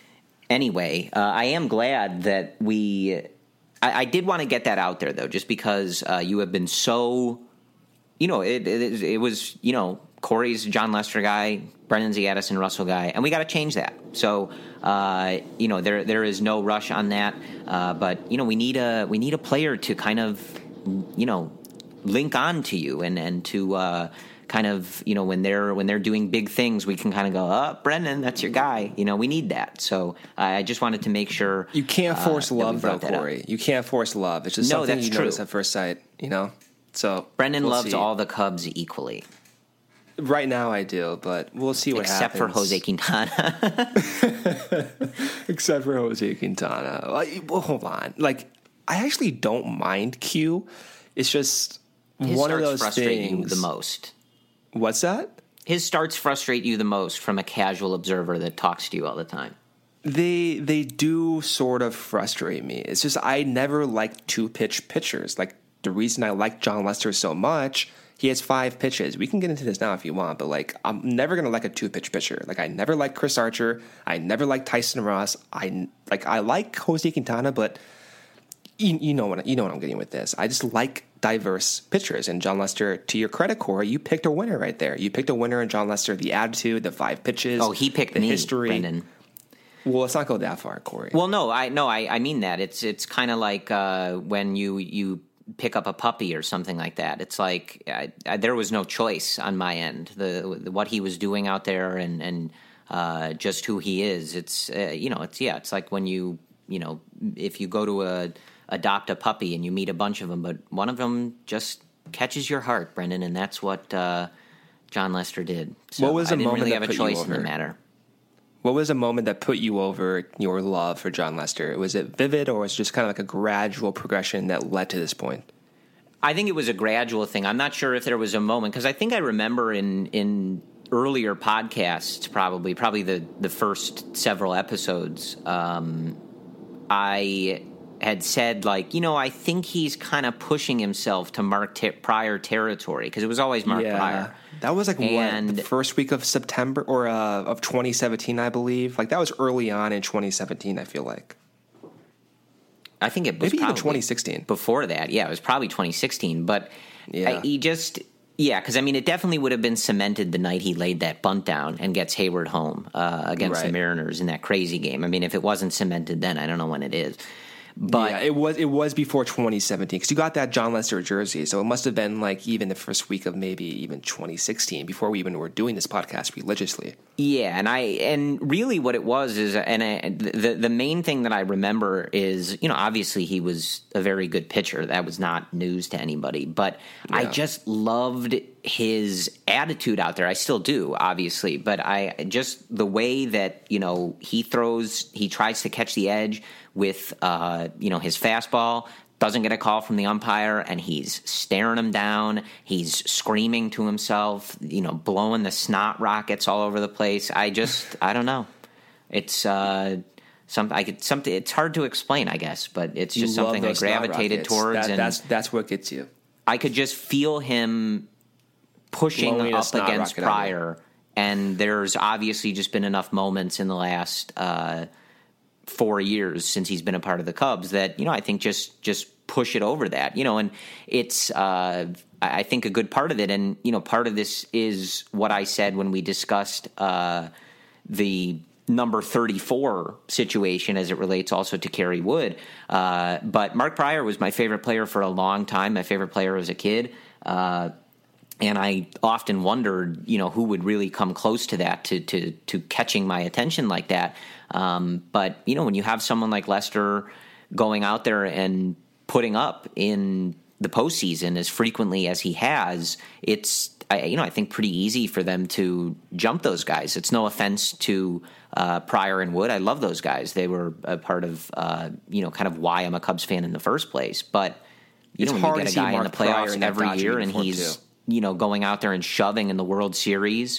anyway, uh, I am glad that we. I, I did want to get that out there though, just because uh, you have been so. You know, it, it it was you know Corey's John Lester guy, Brendan's the Addison Russell guy, and we got to change that. So uh, you know there there is no rush on that, uh, but you know we need a we need a player to kind of you know link on to you and and to uh, kind of you know when they're when they're doing big things, we can kind of go, oh, Brendan, that's your guy. You know, we need that. So uh, I just wanted to make sure You can't force uh, that we love, though, brought that up. Corey. You can't force love. It's just No, something that's you true. notice at first sight, you know? So Brendan we'll loves see. all the Cubs equally, Right now I do, but we'll see what except for happens. Jose Quintana. Except for Jose Quintana. Like, well, hold on. Like, I actually don't mind Q. It's just His one of starts those frustrate things. you the most. What's that? His starts frustrate you the most from a casual observer that talks to you all the time. They they do sort of frustrate me. It's just I never liked two pitch pitchers. Like the reason I like John Lester so much, he has five pitches. We can get into this now if you want, but like I'm never gonna like a two pitch pitcher. Like I never liked Chris Archer. I never liked Tyson Ross. I like I like Jose Quintana, but you, you know what you know what I'm getting with this. I just like diverse pitchers. And John Lester, to your credit, Corey, you picked a winner right there. You picked a winner in John Lester. The attitude, the five pitches. Oh, he picked the me, history. Brendan. Well, let's not go that far, Corey. Well, no, I no, I, I mean that. It's it's kind of like uh, when you you pick up a puppy or something like that. It's like I, I, there was no choice on my end. The, the what he was doing out there and and uh, just who he is. It's uh, you know, it's yeah, it's like when you you know, if you go to a adopt a puppy and you meet a bunch of them, but one of them just catches your heart, Brendan, and that's what uh, John Lester did. So What was I a didn't moment really that have a put you choice in the over? matter. What was a moment that put you over your love for Jon Lester? Was it vivid, or was it just kind of like a gradual progression that led to this point? I think it was a gradual thing. I'm not sure if there was a moment, because I think I remember in in earlier podcasts, probably probably the, the first several episodes, um, I had said, like, you know, I think he's kind of pushing himself to Mark ter- Pryor territory, because it was always Mark yeah. Pryor. That was like and, what, the first week of September or uh, of twenty seventeen, I believe. Like that was early on in twenty seventeen, I feel like. I think it was maybe probably even twenty sixteen. Before that, yeah, it was probably twenty sixteen. But yeah. I, he just, yeah, because I mean, it definitely would have been cemented the night he laid that bunt down and gets Hayward home uh, against right. the Mariners in that crazy game. I mean, if it wasn't cemented then, I don't know when it is. But yeah, it was it was before twenty seventeen, because you got that Jon Lester jersey, so it must have been like even the first week of maybe even twenty sixteen, before we even were doing this podcast religiously. Yeah, and I and really what it was is, and I, the the main thing that I remember is, you know, obviously he was a very good pitcher. That was not news to anybody, but yeah. I just loved his attitude out there. I still do, obviously, but I just the way that, you know, he throws, he tries to catch the edge with, uh, you know, his fastball, doesn't get a call from the umpire, and he's staring him down. He's screaming to himself, you know, blowing the snot rockets all over the place. I just, I don't know. It's uh, some, I could, something. It's hard to explain, I guess, but it's just you something I gravitated towards. That, and that's that's what gets you. I could just feel him pushing Blowing up against Pryor, and there's obviously just been enough moments in the last uh, four years since he's been a part of the Cubs that, you know, I think just just push it over that, you know, and it's uh, I think a good part of it, and, you know, part of this is what I said when we discussed uh, the number thirty-four situation as it relates also to Kerry Wood. Uh, but Mark Pryor was my favorite player for a long time, my favorite player as a kid. Uh, and I often wondered, you know, who would really come close to that, to to, to catching my attention like that. Um, but, you know, when you have someone like Lester going out there and putting up in the postseason as frequently as he has, it's, I, you know, I think pretty easy for them to jump those guys. It's no offense to uh, Pryor and Wood. I love those guys. They were a part of, uh, you know, kind of why I'm a Cubs fan in the first place. But, you it's know, when you get a guy in the playoffs every year and he's, too. you know, going out there and shoving in the World Series,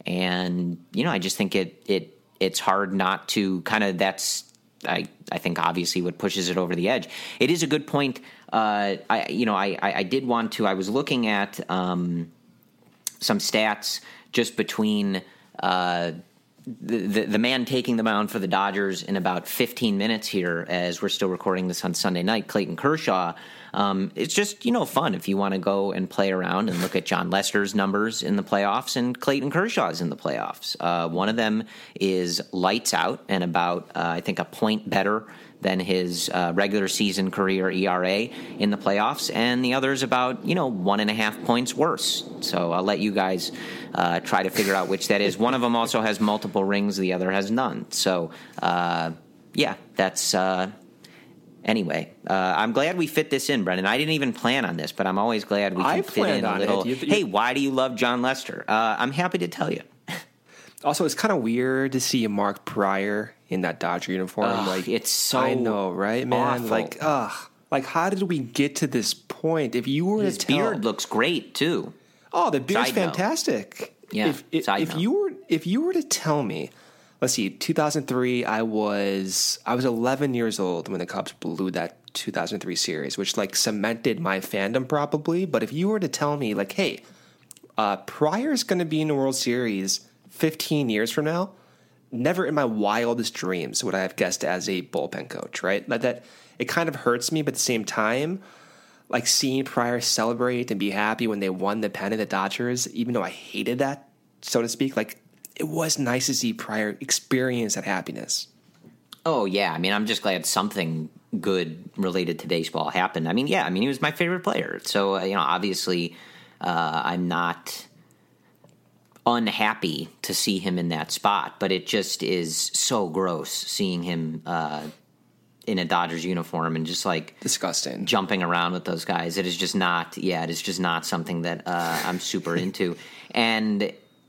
and, you know, I just think it, it, it's hard not to kind of, that's, I, I think obviously what pushes it over the edge. It is a good point. Uh, I, you know, I, I, I did want to, I was looking at um, some stats just between uh, the, the, the man taking the mound for the Dodgers in about fifteen minutes here, as we're still recording this on Sunday night, Clayton Kershaw. Um, it's just, you know, fun if you want to go and play around and look at Jon Lester's numbers in the playoffs and Clayton Kershaw's in the playoffs. Uh, one of them is lights out and about, uh, I think, a point better than his uh, regular season career E R A in the playoffs, and the other is about, you know, one and a half points worse. So I'll let you guys uh, try to figure out which that is. One of them also has multiple rings, the other has none. So, uh, yeah, that's... Uh, Anyway, uh, I'm glad we fit this in, Brendan. I didn't even plan on this, but I'm always glad we can I fit in a little. You, you, hey, why do you love Jon Lester? Uh, I'm happy to tell you. Also, it's kind of weird to see Mark Pryor in that Dodger uniform. Ugh, like it's so I know, right, man? awful. Like, ugh, like how did we get to this point? If you were His to tell, beard looks great too. Oh, the beard's Side note. fantastic. Yeah, If if, side if note. you were if you were to tell me, let's see, two thousand three, I was I was eleven years old when the Cubs blew that two thousand three series, which like cemented my fandom probably. But if you were to tell me, like, hey, uh, Pryor's going to be in the World Series fifteen years from now, never in my wildest dreams would I have guessed as a bullpen coach, right? Like that, it kind of hurts me, but at the same time, like seeing Pryor celebrate and be happy when they won the pennant, the Dodgers, even though I hated that, so to speak, like it was nice to see Pryor experience that happiness. Oh, yeah. I mean, I'm just glad something good related to baseball happened. I mean, yeah, I mean, he was my favorite player. So, uh, you know, obviously uh, I'm not unhappy to see him in that spot, but it just is so gross seeing him uh, in a Dodgers uniform and just like disgusting jumping around with those guys. It is just not, yeah, it is just not something that uh, I'm super into. And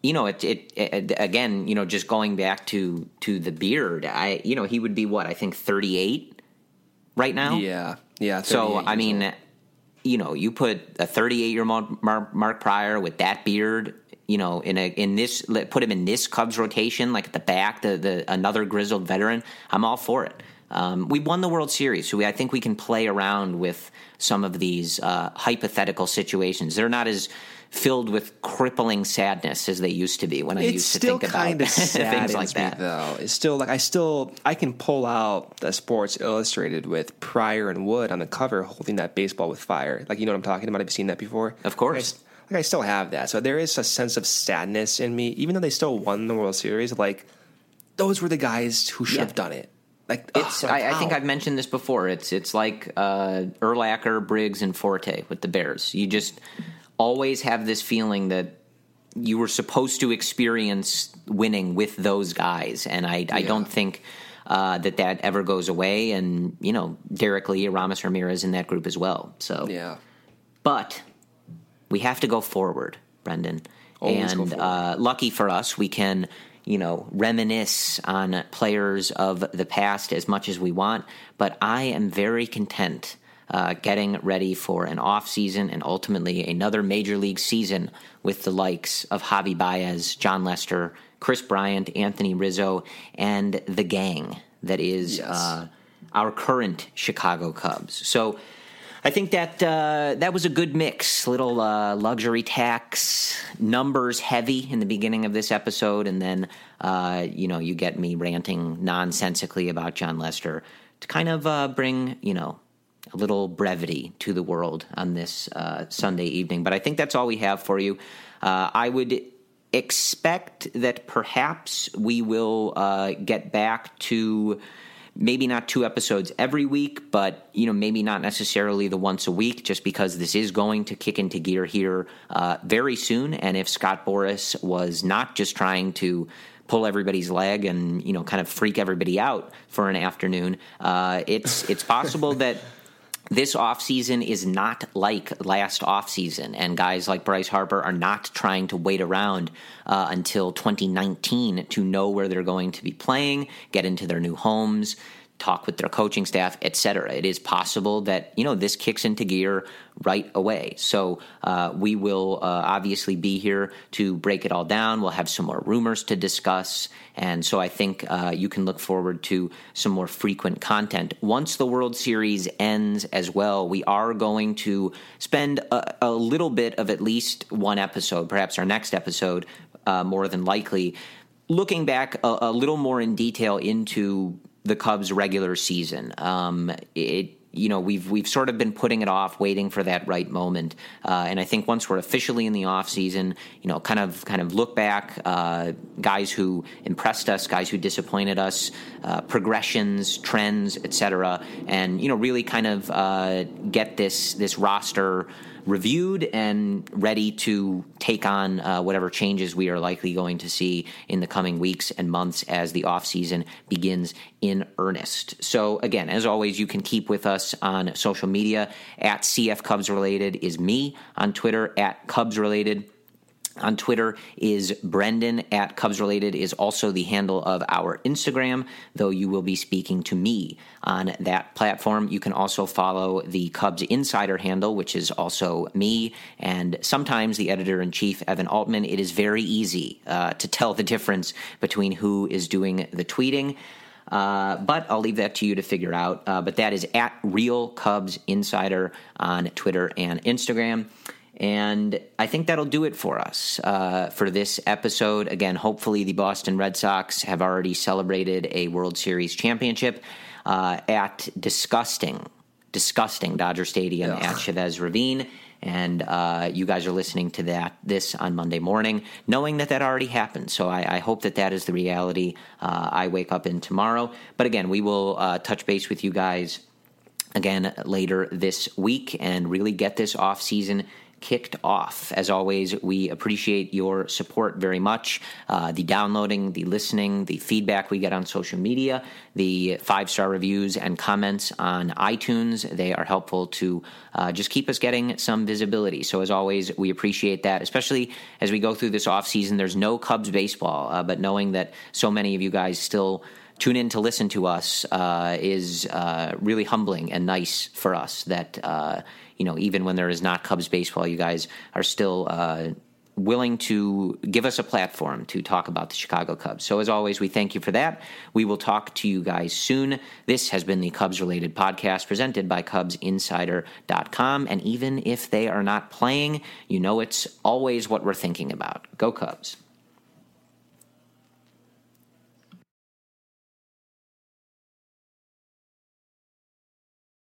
you know, it, it, it again, you know, just going back to to the beard, I, you know, he would be what, I think thirty-eight right now. Yeah, yeah. So I mean, old. you know, you put a thirty-eight-year-old Mark, Mark Prior with that beard, you know, in a in this, put him in this Cubs rotation, like at the back, the the another grizzled veteran. I'm all for it. Um, we won the World Series, so we, I think we can play around with some of these uh, hypothetical situations. They're not as filled with crippling sadness as they used to be when I it's used to think about kind of things like that. Me, though it's still like I still I can pull out the Sports Illustrated with Pryor and Wood on the cover holding that baseball with fire. Like, you know what I'm talking about? Have you seen that before? Of course. Like I, like I still have that. So there is a sense of sadness in me, even though they still won the World Series. Like, those were the guys who should yeah. have done it. Like, it's. Ugh, like, I, I think I've mentioned this before. It's it's like uh, Urlacher, Briggs, and Forte with the Bears. You just always have this feeling that you were supposed to experience winning with those guys, and I, I yeah. don't think uh, that that ever goes away. And, you know, Derek Lee, Aramis Ramirez in that group as well. So, yeah. But we have to go forward, Brendan. Always and go forward. Uh, lucky for us, we can, you know, reminisce on players of the past as much as we want. But I am very content Uh, getting ready for an off season and ultimately another major league season with the likes of Javi Baez, John Lester, Chris Bryant, Anthony Rizzo, and the gang that is yes. uh, our current Chicago Cubs. So I think that uh, that was a good mix. Little uh, luxury tax, numbers heavy in the beginning of this episode, and then uh, you know you get me ranting nonsensically about John Lester to kind of uh, bring you know. a little brevity to the world on this uh, Sunday evening. But I think that's all we have for you. Uh, I would expect that perhaps we will uh, get back to maybe not two episodes every week, but you know maybe not necessarily the once a week, just because this is going to kick into gear here uh, very soon. And if Scott Boras was not just trying to pull everybody's leg and you know kind of freak everybody out for an afternoon, uh, it's it's possible that this offseason is not like last offseason, and guys like Bryce Harper are not trying to wait around uh, until twenty nineteen to know where they're going to be playing, get into their new homes, talk with their coaching staff, et cetera. It is possible that, you know, this kicks into gear right away. So uh, we will uh, obviously be here to break it all down. We'll have some more rumors to discuss. And so I think uh, you can look forward to some more frequent content. Once the World Series ends as well, we are going to spend a, a little bit of at least one episode, perhaps our next episode, uh, more than likely, looking back a, a little more in detail into the Cubs' regular season. Um, it, you know, we've we've sort of been putting it off, waiting for that right moment. Uh, and I think once we're officially in the off season, you know, kind of kind of look back, uh, guys who impressed us, guys who disappointed us, uh, progressions, trends, et cetera, and you know, really kind of uh, get this this roster reviewed and ready to take on uh, whatever changes we are likely going to see in the coming weeks and months as the offseason begins in earnest. So again, as always, you can keep with us on social media. At C F Cubs Related is me on Twitter, at Cubs Related. On Twitter is Brendan. At Cubs Related is also the handle of our Instagram, though you will be speaking to me on that platform. You can also follow the Cubs Insider handle, which is also me, and sometimes the editor-in-chief, Evan Altman. It is very easy uh, to tell the difference between who is doing the tweeting. Uh, but I'll leave that to you to figure out. Uh, but that is at Real Cubs Insider on Twitter and Instagram. And I think that'll do it for us uh, for this episode. Again, hopefully the Boston Red Sox have already celebrated a World Series championship uh, at disgusting, disgusting Dodger Stadium Ugh. at Chavez Ravine. And uh, you guys are listening to that this on Monday morning, knowing that that already happened. So I, I hope that that is the reality uh, I wake up in tomorrow. But again, we will uh, touch base with you guys again later this week and really get this off season kicked off. As always, we appreciate your support very much. Uh, the downloading, the listening, the feedback we get on social media, the five-star reviews and comments on iTunes. They are helpful to uh, just keep us getting some visibility. So as always, we appreciate that, especially as we go through this offseason. There's no Cubs baseball, uh, but knowing that so many of you guys still tune in to listen to us uh, is uh, really humbling and nice for us that, uh, you know, even when there is not Cubs baseball, you guys are still uh, willing to give us a platform to talk about the Chicago Cubs. So as always, we thank you for that. We will talk to you guys soon. This has been the Cubs-related podcast presented by Cubs Insider dot com. And even if they are not playing, you know it's always what we're thinking about. Go Cubs.